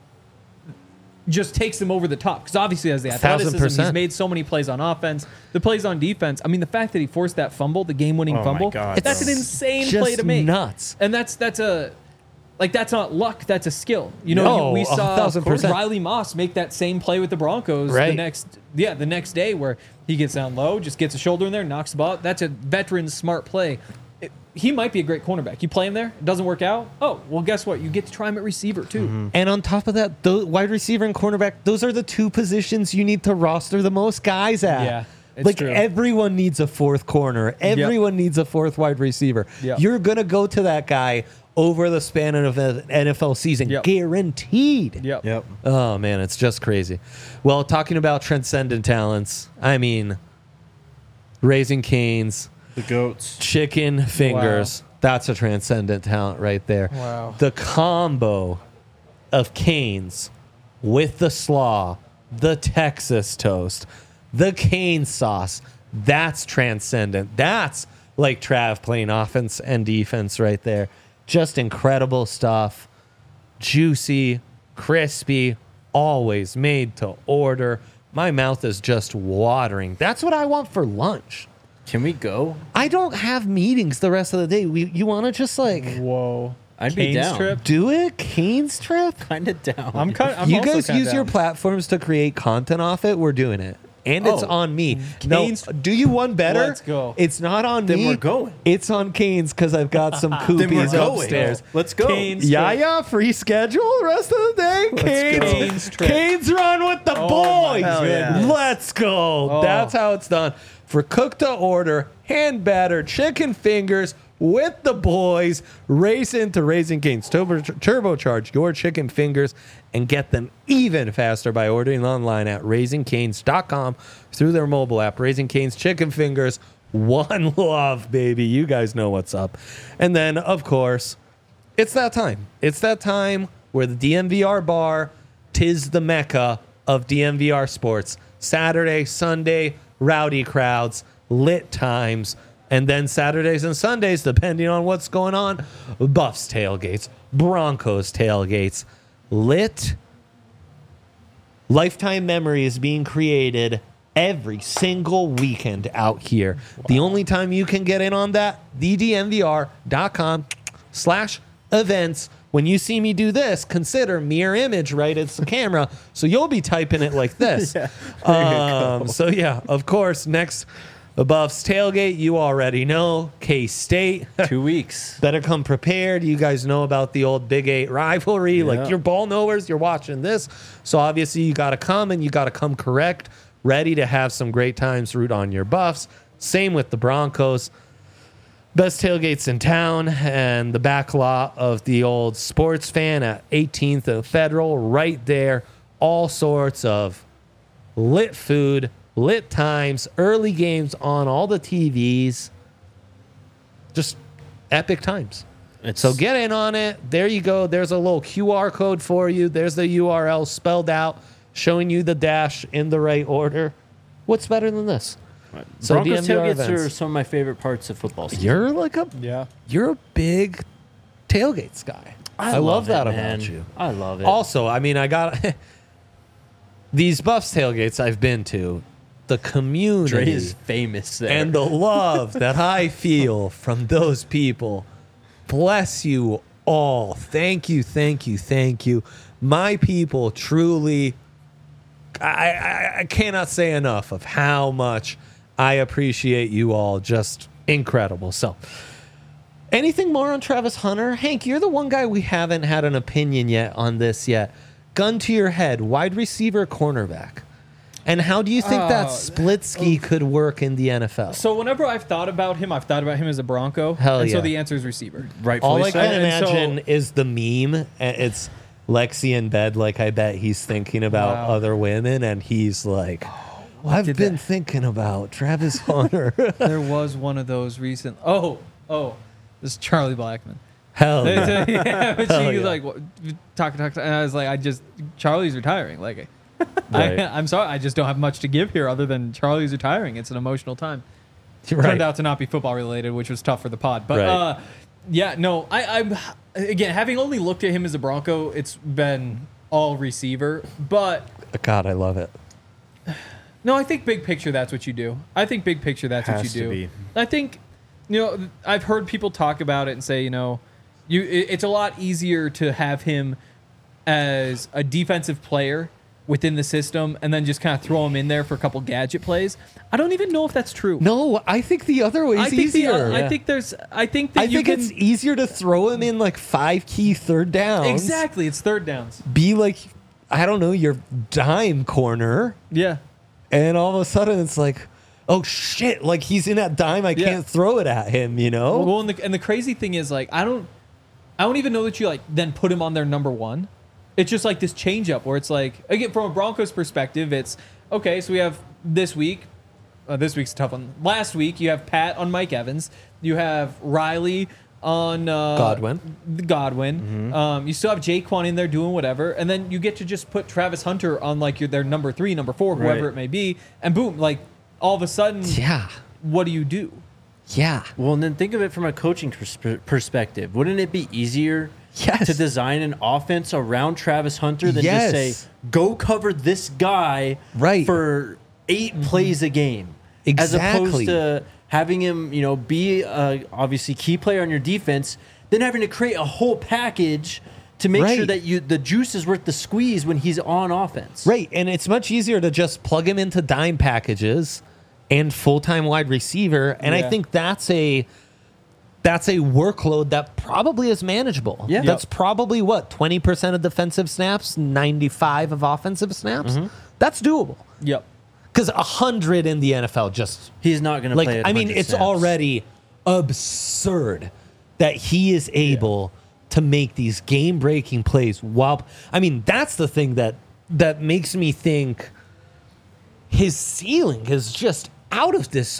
just takes him over the top. Because obviously, has the athleticism, 1000%. he's made so many plays on offense, the plays on defense. I mean, the fact that he forced that fumble, the game-winning fumble, God, that's an insane just play to make. Nuts. And that's not luck. That's a skill. You know, No, we saw 1000%. Riley Moss make that same play with the Broncos Right. the next day, where he gets down low, just gets a shoulder in there, knocks the ball out. That's a veteran smart play. He might be a great cornerback. You play him there, it doesn't work out. Oh, well, guess what? You get to try him at receiver too. And on top of that, the wide receiver and cornerback, those are the 2 positions you need to roster the most guys at. Yeah, it's like true. everyone needs a 4th corner. Everyone needs a 4th wide receiver. Yep. You're going to go to that guy over the span of an NFL season. Yep. Guaranteed. Yep. Oh, man, it's just crazy. Well, talking about transcendent talents, I mean, Raising Cane's, The goats. chicken fingers. That's a transcendent talent right there. Wow. The combo of Cane's with the slaw, the Texas toast, the cane sauce, that's transcendent. That's like Trav playing offense and defense right there. Just incredible stuff. Juicy, crispy, always made to order. My mouth is just watering. That's what I want for lunch. Can we go? I don't have meetings the rest of the day. You want to just like Whoa. I'd be Cane's down. trip? do it? Cane's trip? Kind of down. I'm You also guys kinda use your down. platforms to create content off it. We're doing it. And it's Oh, on me. Cane's- No, do you one better? Let's go. It's not on Then me. we're going. It's on Cane's because I've got some Then we're koopies going. upstairs. Let's go. Cane's Yeah, trip. yeah, free schedule rest of the day. Cane's, Cane's trip. Cane's run with the Oh, boys. my Hell yeah. goodness. Let's go. Oh. That's how it's done. For cook to order, hand battered chicken fingers with the boys. Race into Raising Cane's. Turbocharge your chicken fingers and get them even faster by ordering online at raisingcanes.com through their mobile app. Raising Cane's chicken fingers. One love, baby. You guys know what's up. And then, of course, it's that time. It's that time where the DMVR bar, 'tis the mecca of DMVR sports. Saturday, Sunday, rowdy crowds, lit times, and then Saturdays and Sundays, depending on what's going on, Buffs tailgates, Broncos tailgates, lit. Lifetime memory is being created every single weekend out here. The only time you can get in on that, thedmvr.com/events. When you see me do this, consider mirror image, right? It's the camera. So you'll be typing it like this. So yeah, of course, next Buffs tailgate, you already know, K-State. 2 weeks. Better come prepared. You guys know about the old Big 8 rivalry. Yeah. Like, you're ball knowers, you're watching this. So obviously you got to come, and you got to come correct, ready to have some great times, root on your Buffs. Same with the Broncos. Best tailgates in town, and the back lot of the old Sports Fan at 18th and Federal, right there. All sorts of lit food, lit times, early games on all the TVs. Just epic times. So get in on it. There you go. There's a little QR code for you. There's the URL spelled out, showing you the dash in the right order. What's better than this? So Broncos DMVR tailgates are events. some of my favorite parts of football season. You're a big tailgates guy. I love that man. about you. I love it. Also, I mean, I got these Buffs tailgates I've been to. The community Dre is famous there. and the love that I feel from those people. Bless you all. Thank you, thank you, thank you. My people truly, I cannot say enough of how much I appreciate you all. Just incredible. So, anything more on Travis Hunter? Hank, you're the one guy we haven't had an opinion yet on this yet. Gun to your head, wide receiver, cornerback. And how do you think that split ski could work in the NFL? So whenever I've thought about him as a Bronco. Hell and yeah. So the answer is receiver. Rightfully All I so. can And so- imagine is the meme. It's Lexi in bed, like I bet he's thinking about Wow. other women, and he's like, I've Did been that- thinking about Travis Hunter. There was one of those recent. Oh, this is Charlie Blackman. Hell yeah. Yeah, but Hell she was yeah. like, talk, and I was like, Charlie's retiring. Like, Right. I'm sorry, I just don't have much to give here other than Charlie's retiring. It's an emotional time. Right. Turned out to not be football related, which was tough for the pod. But Right. yeah, no, I'm again having only looked at him as a Bronco, it's been all receiver. But God, I love it. no, I think big picture that's what you do. I think big picture that's what you Has to do. be. I think I've heard people talk about it and say it's a lot easier to have him as a defensive player within the system and then just kind of throw him in there for a couple gadget plays. I don't even know if that's true. No, I think the other way is easier. I think it's easier to throw him in like 5 key third downs. exactly. It's third downs. Be like, I don't know, your dime corner, Yeah. and all of a sudden it's like, oh shit, like he's in that dime, I Yeah. can't throw it at him, you know? Well, and the crazy thing is like I don't even know that you like then put him on their number one. It's just like this change up where it's like again from a Broncos perspective, it's okay. So we have this week. This week's a tough one. Last week you have Pat on Mike Evans. You have Riley on Godwin. You still have Jaquan in there doing whatever, and then you get to just put Travis Hunter on like their number 3, number 4, whoever Right. it may be, and boom, like all of a sudden, Yeah. what do you do? Yeah. Well, and then think of it from a coaching perspective. Wouldn't it be easier Yes. to design an offense around Travis Hunter than Yes. just say, go cover this guy Right. for 8 plays a game? As Exactly. opposed to having him, be obviously key player on your defense, then having to create a whole package to make sure Right. that the juice is worth the squeeze when he's on offense. Right, and it's much easier to just plug him into dime packages and full-time wide receiver, and I Yeah. think that's a workload that probably is manageable. Yeah. That's probably 20% of defensive snaps, 95 of offensive snaps. That's doable. Yep. Because 100 in the NFL just He's not going to like play at I mean 100 it's snaps. already absurd that he is able to make these game-breaking plays while I mean that's the thing that makes me think his ceiling is just out of this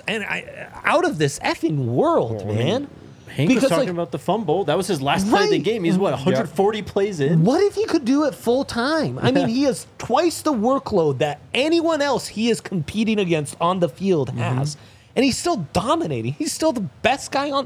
effing world, man. Hank was Because, talking like, about the fumble. That was his last play of the Right. game. He's 140 plays in. What if he could do it full time? I mean, he has twice the workload that anyone else he is competing against on the field has, and he's still dominating. He's still the best guy on.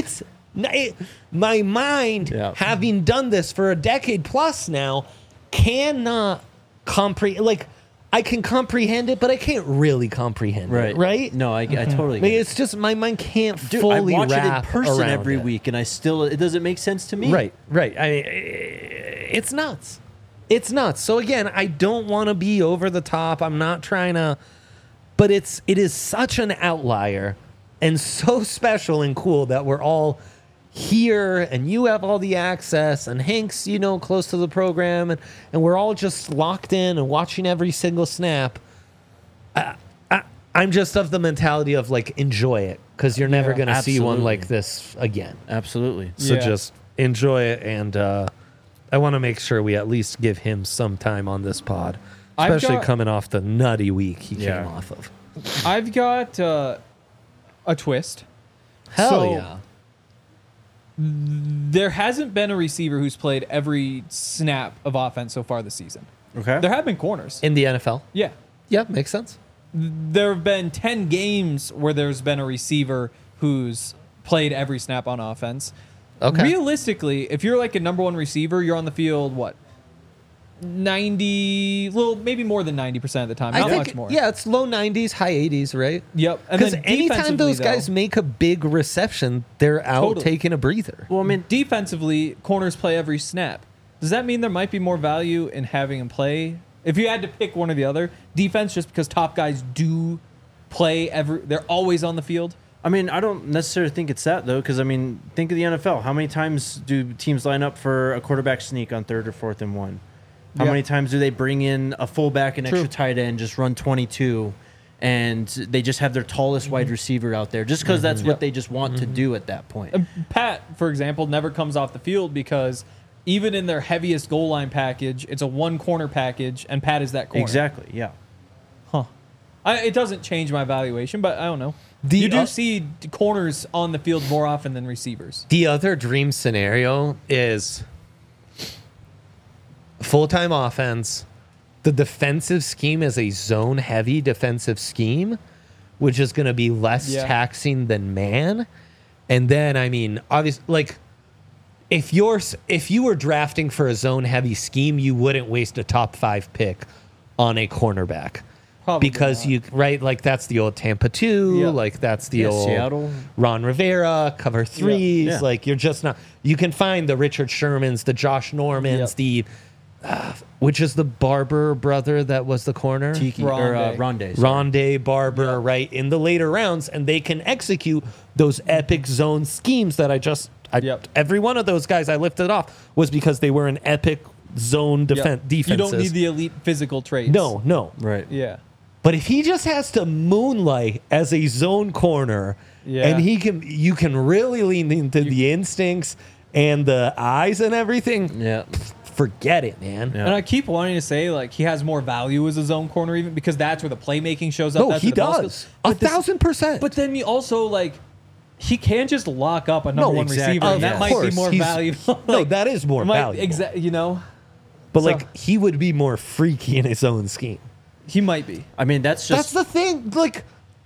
My mind, Yeah. having done this for a decade plus now, cannot comprehend. Like, I can comprehend it, but I can't really comprehend it. Right? No, I totally I get mean, it. it's just my mind can't Dude, fully I watch it in wrap person around every it. week, and it doesn't make sense to me. Right. It's nuts. It's nuts. So again, I don't want to be over the top. I'm not trying to, but it is such an outlier and so special and cool that we're all here and you have all the access and Hank's, close to the program and we're all just locked in and watching every single snap. I'm just of the mentality of like, enjoy it because you're never Yeah, going to see one absolutely. like this again. Absolutely. So Yeah. just enjoy it, and I want to make sure we at least give him some time on this pod, I've especially got- coming off the nutty week he Yeah. came off of. I've got a twist. Hell So- yeah. There hasn't been a receiver who's played every snap of offense so far this season. Okay. There have been corners. In the NFL? Yeah. Yeah, makes sense. There have been 10 games where there's been a receiver who's played every snap on offense. Okay. Realistically, if you're like a number one receiver, you're on the field, 90, maybe more than 90% of the time. Not much more. Yeah, it's low 90s, high 80s, right? Yep. And Because then anytime defensively, those guys though, make a big reception, they're out Totally. taking a breather. well, I mean, defensively, corners play every snap. Does that mean there might be more value in having him play? If you had to pick one or the other, defense, just because top guys do play they're always on the field. I mean, I don't necessarily think it's that, though, because, I mean, think of the NFL. How many times do teams line up for a quarterback sneak on 3rd or 4th and 1? How Yeah. many times do they bring in a fullback and True. extra tight end, just run 22, and they just have their tallest wide receiver out there, just because that's what Yep. they just want to do at that point? And Pat, for example, never comes off the field because even in their heaviest goal line package, it's a one corner package, and Pat is that corner. Exactly, yeah. Huh. It doesn't change my valuation, but I don't know. You do see corners on the field more often than receivers. The other dream scenario is full-time offense. The defensive scheme is a zone-heavy defensive scheme, which is going to be less taxing than man. And then, I mean, obviously, like, if you were drafting for a zone-heavy scheme, you wouldn't waste a top 5 pick on a cornerback. Probably because not. like that's the old Tampa 2, like that's the old Seattle. Ron Rivera, cover 3s. Yeah. Like you're just not, you can find the Richard Shermans, the Josh Normans, the, which is the Barber brother that was the corner? Rondé. Rondé Barber, right, in the later rounds, and they can execute those epic zone schemes that every one of those guys I lifted off was because they were an epic zone defenses. You don't need the elite physical traits. No. Right. Yeah. But if he just has to moonlight as a zone corner, and you can really lean into the instincts and the eyes and everything. Yeah. Forget it, man. Yeah. And I keep wanting to say like he has more value as a zone corner, even because that's where the playmaking shows up. No, that's he where the ball does. skills- 1,000%. But then you also like he can't just lock up a number one exactly. receiver. And Of that might be course, more he's- valuable. no, that is more valuable. You know, But so- like he would be more freaky in his own scheme. he might be. I mean, that's That's the thing. Like,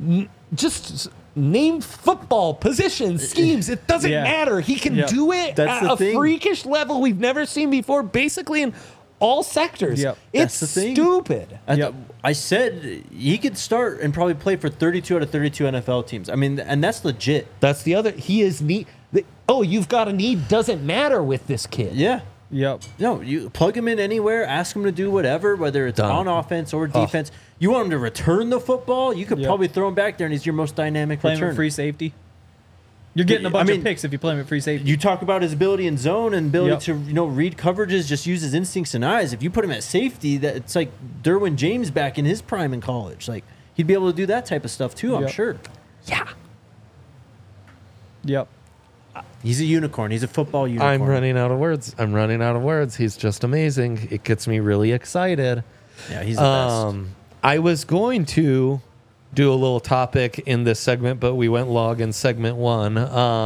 just name football positions, schemes. It doesn't Yeah. matter. He can Yep. do it That's at the a thing. freakish level we've never seen before, basically in all sectors. Yep. It's That's the thing. stupid. Yep. I said he could start and probably play for 32 out of 32 NFL teams. I mean, and that's legit. That's the other. He is neat. You've got a need. Doesn't matter with this kid. Yeah. Yep. No, you plug him in anywhere, ask him to do whatever, whether it's Done. on offense or defense. You want him to return the football, you could Yep. probably throw him back there, and he's your most dynamic Play him returner. at free safety. You're getting a bunch of picks if you play him at free safety. You talk about his ability in zone and ability Yep. to read coverages, just use his instincts and eyes. If you put him at safety, that it's like Derwin James back in his prime in college. Like he'd be able to do that type of stuff too. I'm Yep. sure. Yeah. Yep. He's a unicorn. He's a football unicorn. I'm running out of words. He's just amazing. It gets me really excited. Yeah, he's the best. I was going to do a little topic in this segment, but we went log in segment 1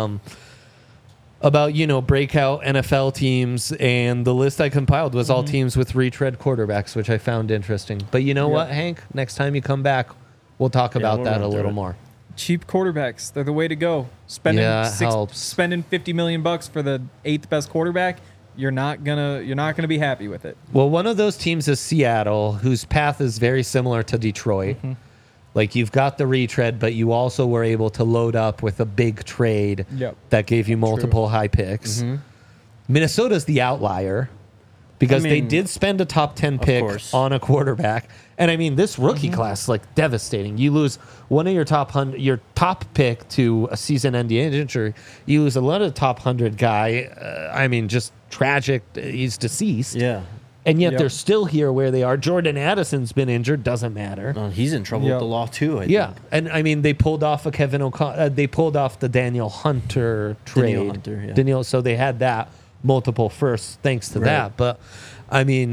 about, breakout NFL teams. And the list I compiled was all teams with retread quarterbacks, which I found interesting. But you know what, Hank? Next time you come back, we'll talk about we'll that run a through little it. more. Cheap quarterbacks. They're the way to go. Spending Helps. spending $50 million for the 8th best quarterback. You're not gonna be happy with it. Well, one of those teams is Seattle, whose path is very similar to Detroit. Like you've got the retread, but you also were able to load up with a big trade that gave you multiple high picks. Minnesota's the outlier because they did spend a top 10 pick on a quarterback. And I mean, this rookie class, like devastating. You lose one of your top pick to a season-ending injury. You lose a lot of the top 100 guy. I mean, just tragic. He's deceased. Yeah. And yet they're still here where they are. Jordan Addison's been injured. Doesn't matter. He's in trouble with the law too. I think. And I mean, they pulled off a Kevin O'Connell. They pulled off the Daniel Hunter trade. Danielle Hunter, yeah. So they had that multiple firsts thanks to that. But I mean,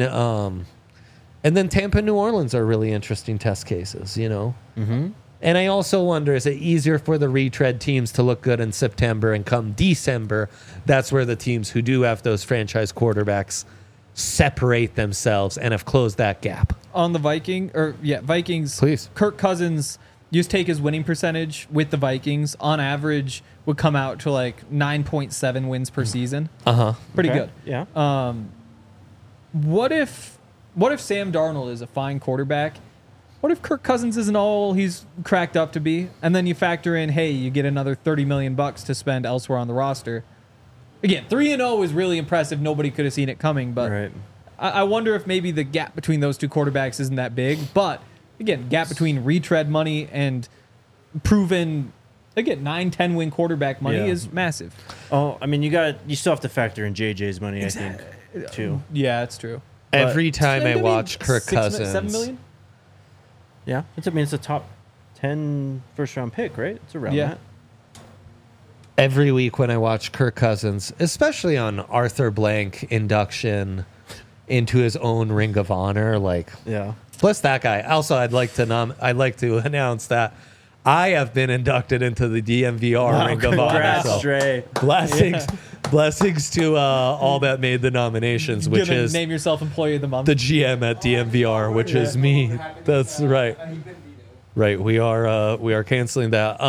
and then Tampa and New Orleans are really interesting test cases, And I also wonder, is it easier for the retread teams to look good in September, and come December, that's where the teams who do have those franchise quarterbacks separate themselves and have closed that gap? On the Vikings. Please. Kirk Cousins, you just take his winning percentage with the Vikings, on average would come out to like 9.7 wins per season. Pretty good. Yeah. What if Sam Darnold is a fine quarterback? What if Kirk Cousins isn't all he's cracked up to be? And then you factor in, hey, you get another $30 million to spend elsewhere on the roster. Again, 3-0 is really impressive. Nobody could have seen it coming, but I wonder if maybe the gap between those two quarterbacks isn't that big. But again, gap between retread money and proven, again, 9-10 win quarterback money is massive. Oh, I mean, you still have to factor in JJ's money, I think, too. Yeah, it's true. Every time I Maybe watch Kirk 7 Cousins, million? Yeah, it's a top 10 first-round pick, right? It's around that. every week when I watch Kirk Cousins, especially on Arthur Blank induction into his own Ring of Honor, like, Yeah. Plus that guy. Also, I'd like to announce that I have been inducted into the DMVR Ring of Honor. Congrats, So Dre. blessings to all that made the nominations, which Gonna is name yourself Employee of the Month. the GM at DMVR, which is me. That's right. Right, we are canceling that.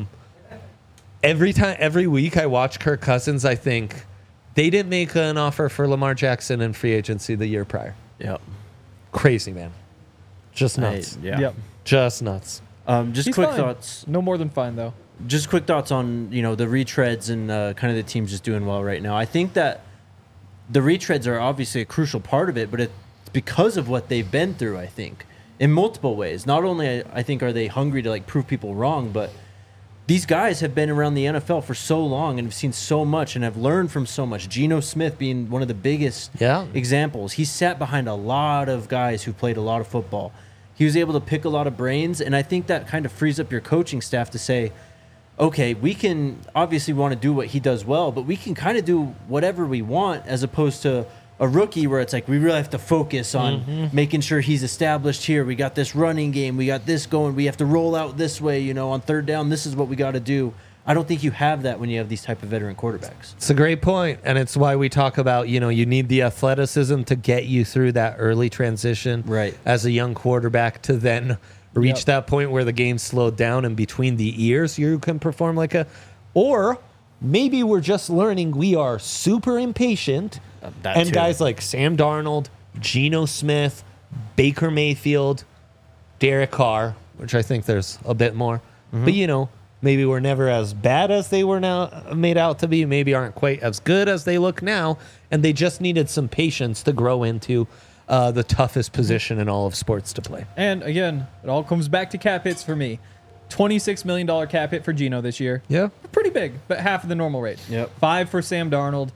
Every week I watch Kirk Cousins, I think they didn't make an offer for Lamar Jackson in free agency the year prior. Yep. Crazy, man. Just nuts. Yeah. Yep. Just nuts. Just He's quick fine. thoughts. No more than fine though. Just quick thoughts on the retreads and kind of the teams just doing well right now. I think that the retreads are obviously a crucial part of it, but it's because of what they've been through. I think in multiple ways. Not only I think are they hungry to like prove people wrong, but these guys have been around the NFL for so long and have seen so much and have learned from so much. Geno Smith being one of the biggest examples. He sat behind a lot of guys who played a lot of football. He was able to pick a lot of brains, and I think that kind of frees up your coaching staff to say, okay, we can obviously want to do what he does well, but we can kind of do whatever we want, as opposed to a rookie where it's like we really have to focus on making sure he's established here. We got this running game. We got this going. We have to roll out this way, on third down. This is what we got to do. I don't think you have that when you have these type of veteran quarterbacks. It's a great point, and it's why we talk about, you need the athleticism to get you through that early transition Right. as a young quarterback to then reach that point where the game slowed down and between the ears you can perform or maybe we're just learning we are super impatient and guys like Sam Darnold, Geno Smith, Baker Mayfield, Derek Carr, which I think there's a bit more, but maybe we're never as bad as they were now made out to be, maybe aren't quite as good as they look now, and they just needed some patience to grow into the toughest position in all of sports to play. And again, it all comes back to cap hits for me. $26 million cap hit for Geno this year. Yeah. Pretty big, but half of the normal rate. Yep. 5 for Sam Darnold,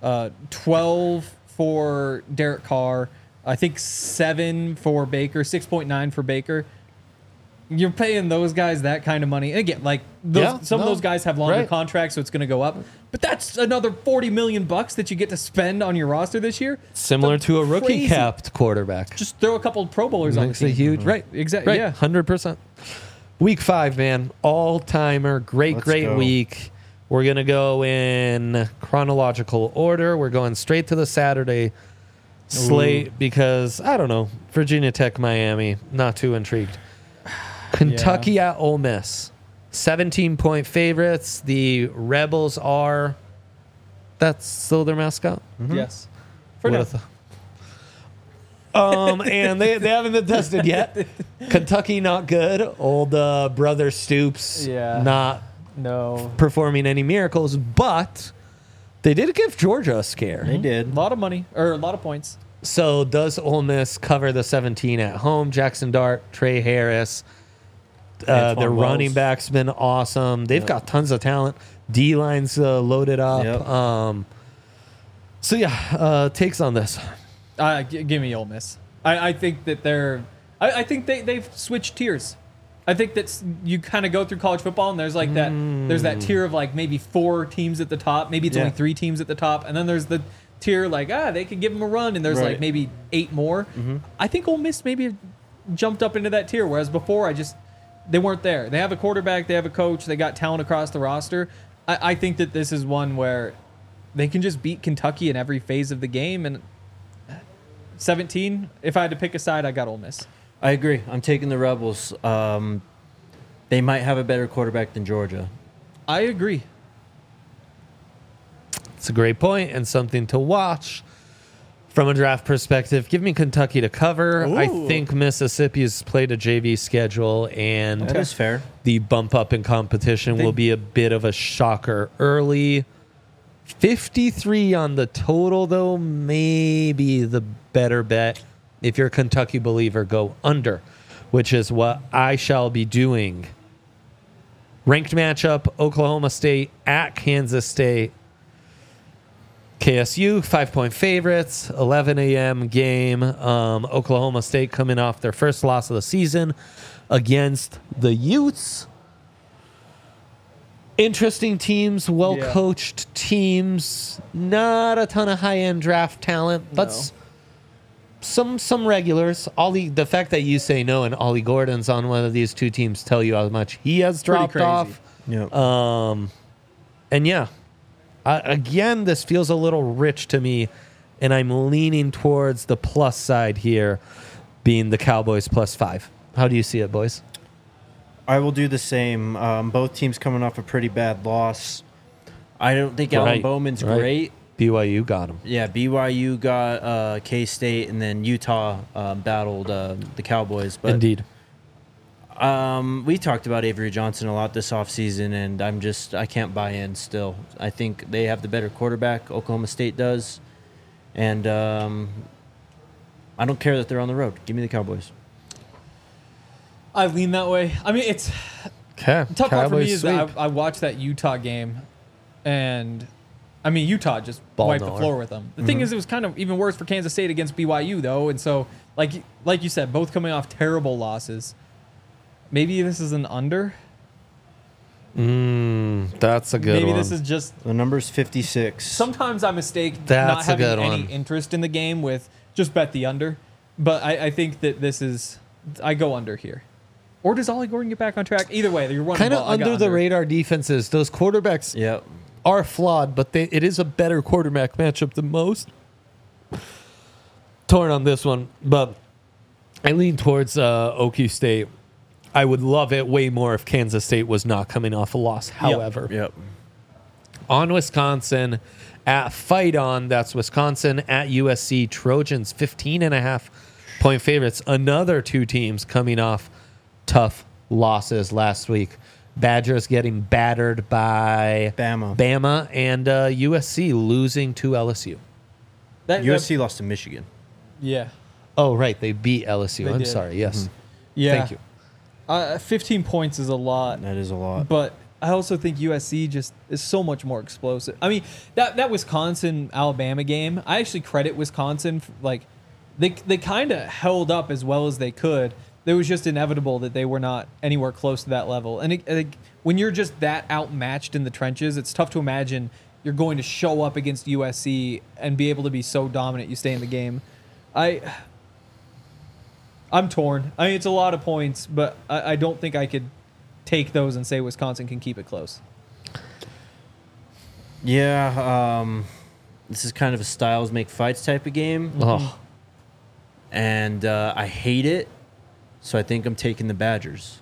12 for Derek Carr, I think 7 for Baker, 6.9 for Baker. You're paying those guys that kind of money. And again, some of those guys have longer contracts, so it's going to go up. But that's another $40 million that you get to spend on your roster this year. Similar to a rookie Crazy. capped quarterback. Just throw a couple of Pro Bowlers on the Makes team. a huge Right, exactly. Right, Yeah. 100%. Week 5, man, all timer, great go. week. We're gonna go in chronological order. We're going straight to the Saturday slate because I don't know, Virginia Tech, Miami, not too intrigued. Kentucky at Ole Miss, 17-point favorites. The Rebels are. That's still their mascot. Yes. For What now. a and they haven't been tested yet. Kentucky not good. Old brother Stoops not No. performing any miracles, but they did give Georgia a scare. They A did. lot of money, or a lot of points. So does Ole Miss cover the 17 at home? Jackson Dart, Trey Harris, Antoine their Wells. running back's been awesome. They've got tons of talent. D-line's loaded up. Yep. Takes on this. Give me Ole Miss. I think that I think they've switched tiers. I think that you kind of go through college football and there's like there's that tier of like maybe 4 teams at the top, maybe it's only 3 teams at the top, and then there's the tier like they could give them a run, and there's like maybe 8 more. I think Ole Miss maybe jumped up into that tier, whereas before they weren't there. They have a quarterback, they have a coach, they got talent across the roster. I think that this is one where they can just beat Kentucky in every phase of the game, and 17, if I had to pick a side, I got Ole Miss. I agree. I'm taking the Rebels. They might have a better quarterback than Georgia. I agree. It's a great point and something to watch from a draft perspective. Give me Kentucky to cover. I think Mississippi's played a JV schedule, and That is fair. the bump up in competition will be a bit of a shocker early. 53 on the total, though, maybe the better bet. If you're a Kentucky believer, go under, which is what I shall be doing. Ranked matchup, Oklahoma State at Kansas State. KSU, 5-point favorites, 11 a.m. game. Oklahoma State coming off their first loss of the season against the Utes. Interesting teams, well-coached teams. Not a ton of high-end draft talent. Let's some regulars. The fact that you say no and Ollie Gordon's on one of these two teams tell you how much he has dropped crazy. off. Yep. And yeah, again, this feels a little rich to me, and I'm leaning towards the plus side here, being the Cowboys +5. How do you see it, boys? I will do the same. Both teams coming off a pretty bad loss. I don't think Alan Bowman's great. BYU got him. Yeah, BYU got K-State, and then Utah battled the Cowboys. But Indeed. we talked about Avery Johnson a lot this offseason, and I can't buy in still. I think they have the better quarterback. Oklahoma State does. And I don't care that they're on the road. Give me the Cowboys. I lean that way. I mean, it's Okay. tough part for me is that I watched that Utah game, and I mean Utah just wiped the floor with them. The thing is, it was kind of even worse for Kansas State against BYU though, and so like you said, both coming off terrible losses. Maybe this is an under. That's a good Maybe one. this is just. The number's 56. Sometimes I mistake That's not a having good any one. interest in the game with just bet the under, but I think that this is. I go under here. Or does Ollie Gordon get back on track? Either way, you're running kind of ball. I got under the radar defenses. Those quarterbacks Yep. are flawed, but it is a better quarterback matchup than most. Torn on this one, but I lean towards OQ State. I would love it way more if Kansas State was not coming off a loss. However, Yep. on Wisconsin at Fight On, that's Wisconsin at USC. Trojans 15.5-point favorites. Another two teams coming off tough losses last week. Badgers getting battered by Bama. and USC losing to LSU. USC lost to Michigan. Yeah. Oh, right. They beat LSU. They I'm did. sorry. Yes. Yeah. Thank you. 15 points is a lot. That is a lot. But I also think USC just is so much more explosive. I mean, that Wisconsin Alabama game, I actually credit Wisconsin. Like, they kind of held up as well as they could. It was just inevitable that they were not anywhere close to that level. And when you're just that outmatched in the trenches, it's tough to imagine you're going to show up against USC and be able to be so dominant you stay in the game. I'm torn. I mean, it's a lot of points, but I don't think I could take those and say Wisconsin can keep it close. Yeah, this is kind of a styles make fights type of game. Oh, And I hate it, so I think I'm taking the Badgers.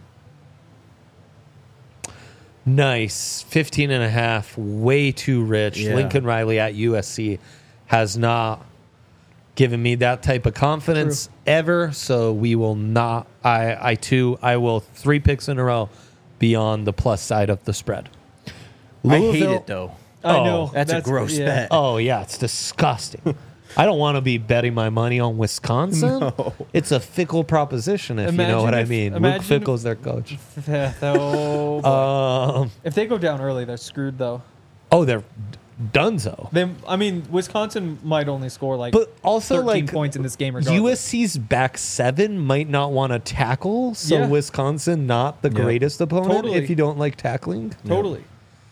nice. 15.5. Way too rich. Yeah. Lincoln Riley at USC has not given me that type of confidence ever. So we will not. I will 3 picks in a row be on the plus side of the spread. I hate it, though. I know. That's a gross bet. Oh, yeah, it's disgusting. I don't want to be betting my money on Wisconsin. No. It's a fickle proposition, if you know Imagine what I if- mean. Luke imagine Fickle's their coach. Oh, boy. If they go down early, they're screwed, though. They're donezo. I mean, Wisconsin might only score like But also, 13 like, points in this game regardless. USC's back 7 might not want to tackle, so Yeah. Wisconsin not the greatest opponent Totally. if you don't like tackling. Totally.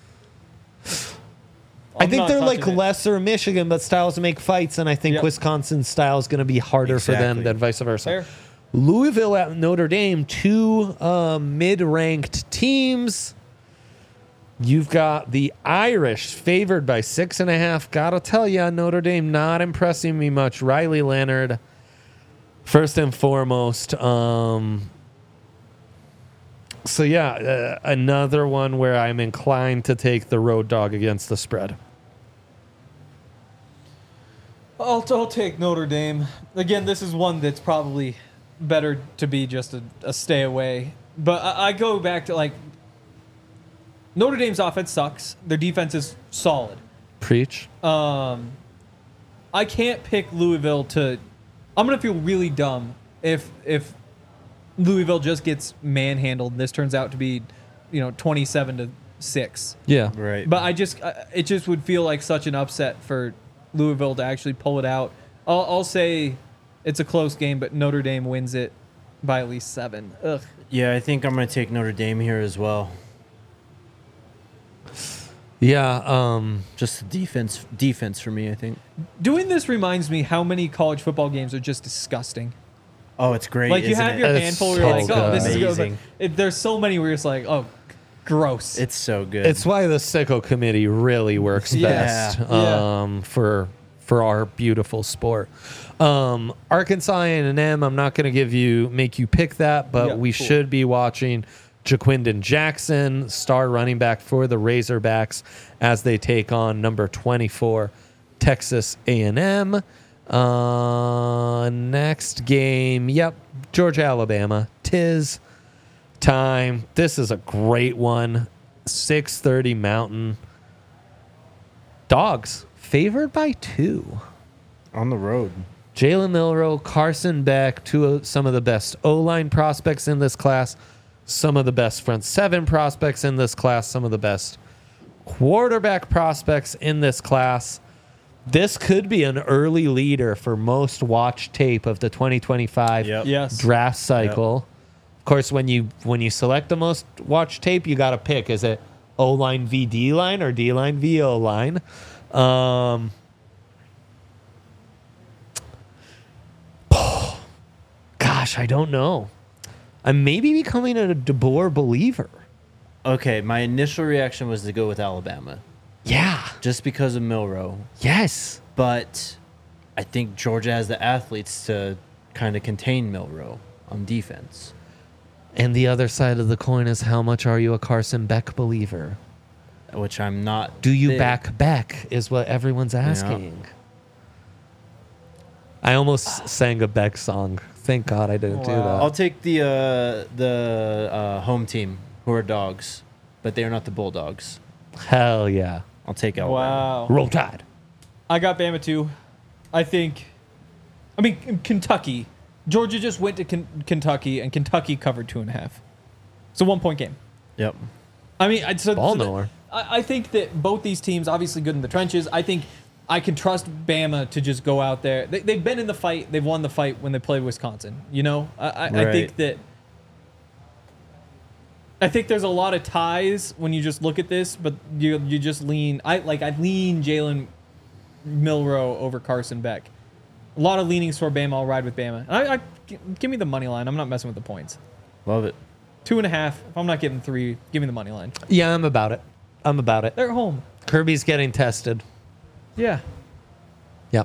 I I'm think not they're like touching it. lesser Michigan, but styles make fights, and I think Yep. Wisconsin's style is going to be harder for them Exactly. than vice versa. Fair. Louisville at Notre Dame, two mid-ranked teams. You've got the Irish favored by 6.5. Gotta tell you, Notre Dame not impressing me much. Riley Leonard, first and foremost. So yeah, another one where I'm inclined to take the road dog against the spread. I'll take Notre Dame. Again, this is one that's probably better to be just a stay away. But I go back to, like, Notre Dame's offense sucks. Their defense is solid. Preach. I can't pick Louisville to... I'm going to feel really dumb if Louisville just gets manhandled and this turns out to be, 27-6. Yeah. Right. But it just would feel like such an upset for Louisville to actually pull it out. I'll say it's a close game, but Notre Dame wins it by at least 7. Ugh. Yeah, I think I'm going to take Notre Dame here as well. Yeah. Just the defense for me, I think. Doing this reminds me how many college football games are just disgusting. Oh, it's great. Like you isn't have it? your It's handful where you're so like, oh, this is good. good. Amazing. But there's so many where you're just like, oh, gross. It's so good. It's why the Sicko Committee really works Yeah. best Yeah. for our beautiful sport. Arkansas A&M, I'm not going to make you pick that, but Yeah, we cool. should be watching Jaquindon Jackson, star running back for the Razorbacks, as they take on number 24 Texas A&M. Next game, Georgia Alabama. 'Tis time. This is a great one. 6:30 Mountain. Dogs favored by 2. on the road. Jalen Milroe, Carson Beck, some of the best O-line prospects in this class, some of the best front seven prospects in this class, some of the best quarterback prospects in this class. This could be an early leader for most watched tape of the 2025 Yep. Yes. draft cycle. Of course, when you select the most watched tape, you got to pick: is it O-line v D-line or D-line v O-line? Gosh, I don't know. I'm maybe becoming a DeBoer believer. Okay, my initial reaction was to go with Alabama, Yeah. just because of Milroe. Yes. But I think Georgia has the athletes to kind of contain Milroe on defense. And the other side of the coin is, how much are you a Carson Beck believer? Which I'm not. Do you big. back Beck is what everyone's asking. I almost sang a Beck song. Thank God I didn't do Wow. I'll that. take the home team, who are dogs, but they are not the Bulldogs. Hell yeah. I'll take Alabama. Wow. Roll Tide. I got Bama too. I mean, Kentucky. Georgia just went to Kentucky, and Kentucky covered 2.5. It's a 1-point game. Yep. I mean, Ball knower. I think that both these teams, obviously good in the trenches. I think I can trust Bama to just go out there. They've been in the fight. They've won the fight when they played Wisconsin. You know, I think Right. there's a lot of ties when you just look at this, but you just lean. I lean Jalen Milroe over Carson Beck. A lot of leanings for Bama. I'll ride with Bama. Give me the money line. I'm not messing with the points. Love it. 2.5. If I'm not getting 3, give me the money line. Yeah, I'm about it. They're at home. Kirby's getting tested. Yeah. Yep.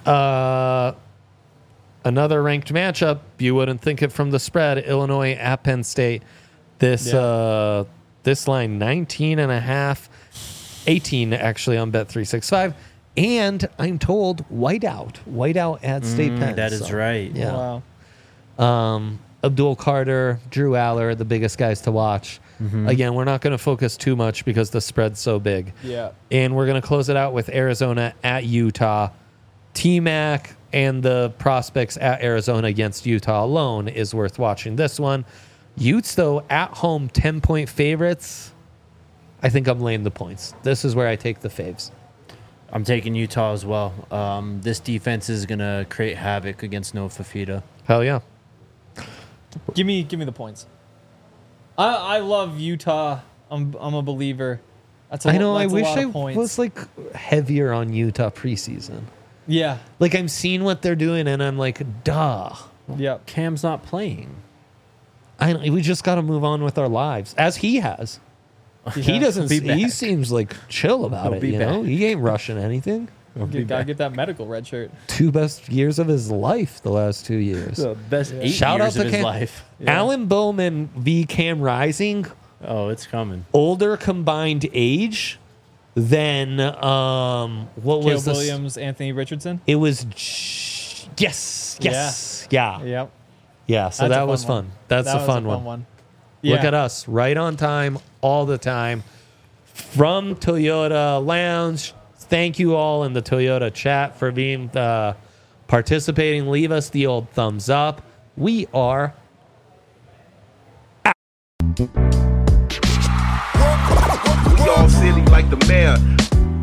Another ranked matchup. You wouldn't think it from the spread. Illinois at Penn State. This line 19.5, 18 actually on Bet365. And I'm told whiteout at State Penn. That is right. Yeah. Wow. Abdul Carter, Drew Aller, the biggest guys to watch. Again, we're not going to focus too much because the spread's so big. Yeah. And we're going to close it out with Arizona at Utah. T-Mac and the prospects at Arizona against Utah alone is worth watching this one. Utes, though, at home, 10-point favorites. I think I'm laying the points. This is where I take the faves. I'm taking Utah as well. This defense is going to create havoc against Noah Fafita. Hell yeah. Give me the points. I love Utah. I'm a believer. I know. I that's a wish lot I of points. was like heavier on Utah preseason. Yeah. Like I'm seeing what they're doing, and I'm like, duh. Yeah. Cam's not playing. We just got to move on with our lives, as he has. He doesn't. He'll be He back. seems like chill about He'll it. be You know, back. he ain't rushing anything. Gotta get that medical red shirt. 2 best years of his life, the last 2 years. The best 8 Shout out years to of his Cam. life. Alan Bowman v. Cam Rising, Oh, it's coming. older combined age than what Caleb was this? Williams, Anthony Richardson. It was yes. Yeah. Yep. So That's a that was fun one. fun. That's That a was fun one. one. Look Yeah. at us, right on time, all the time. From Toyota Lounge. Thank you all in the Toyota chat for being participating. Leave us the old thumbs up. We are We all silly like the mayor.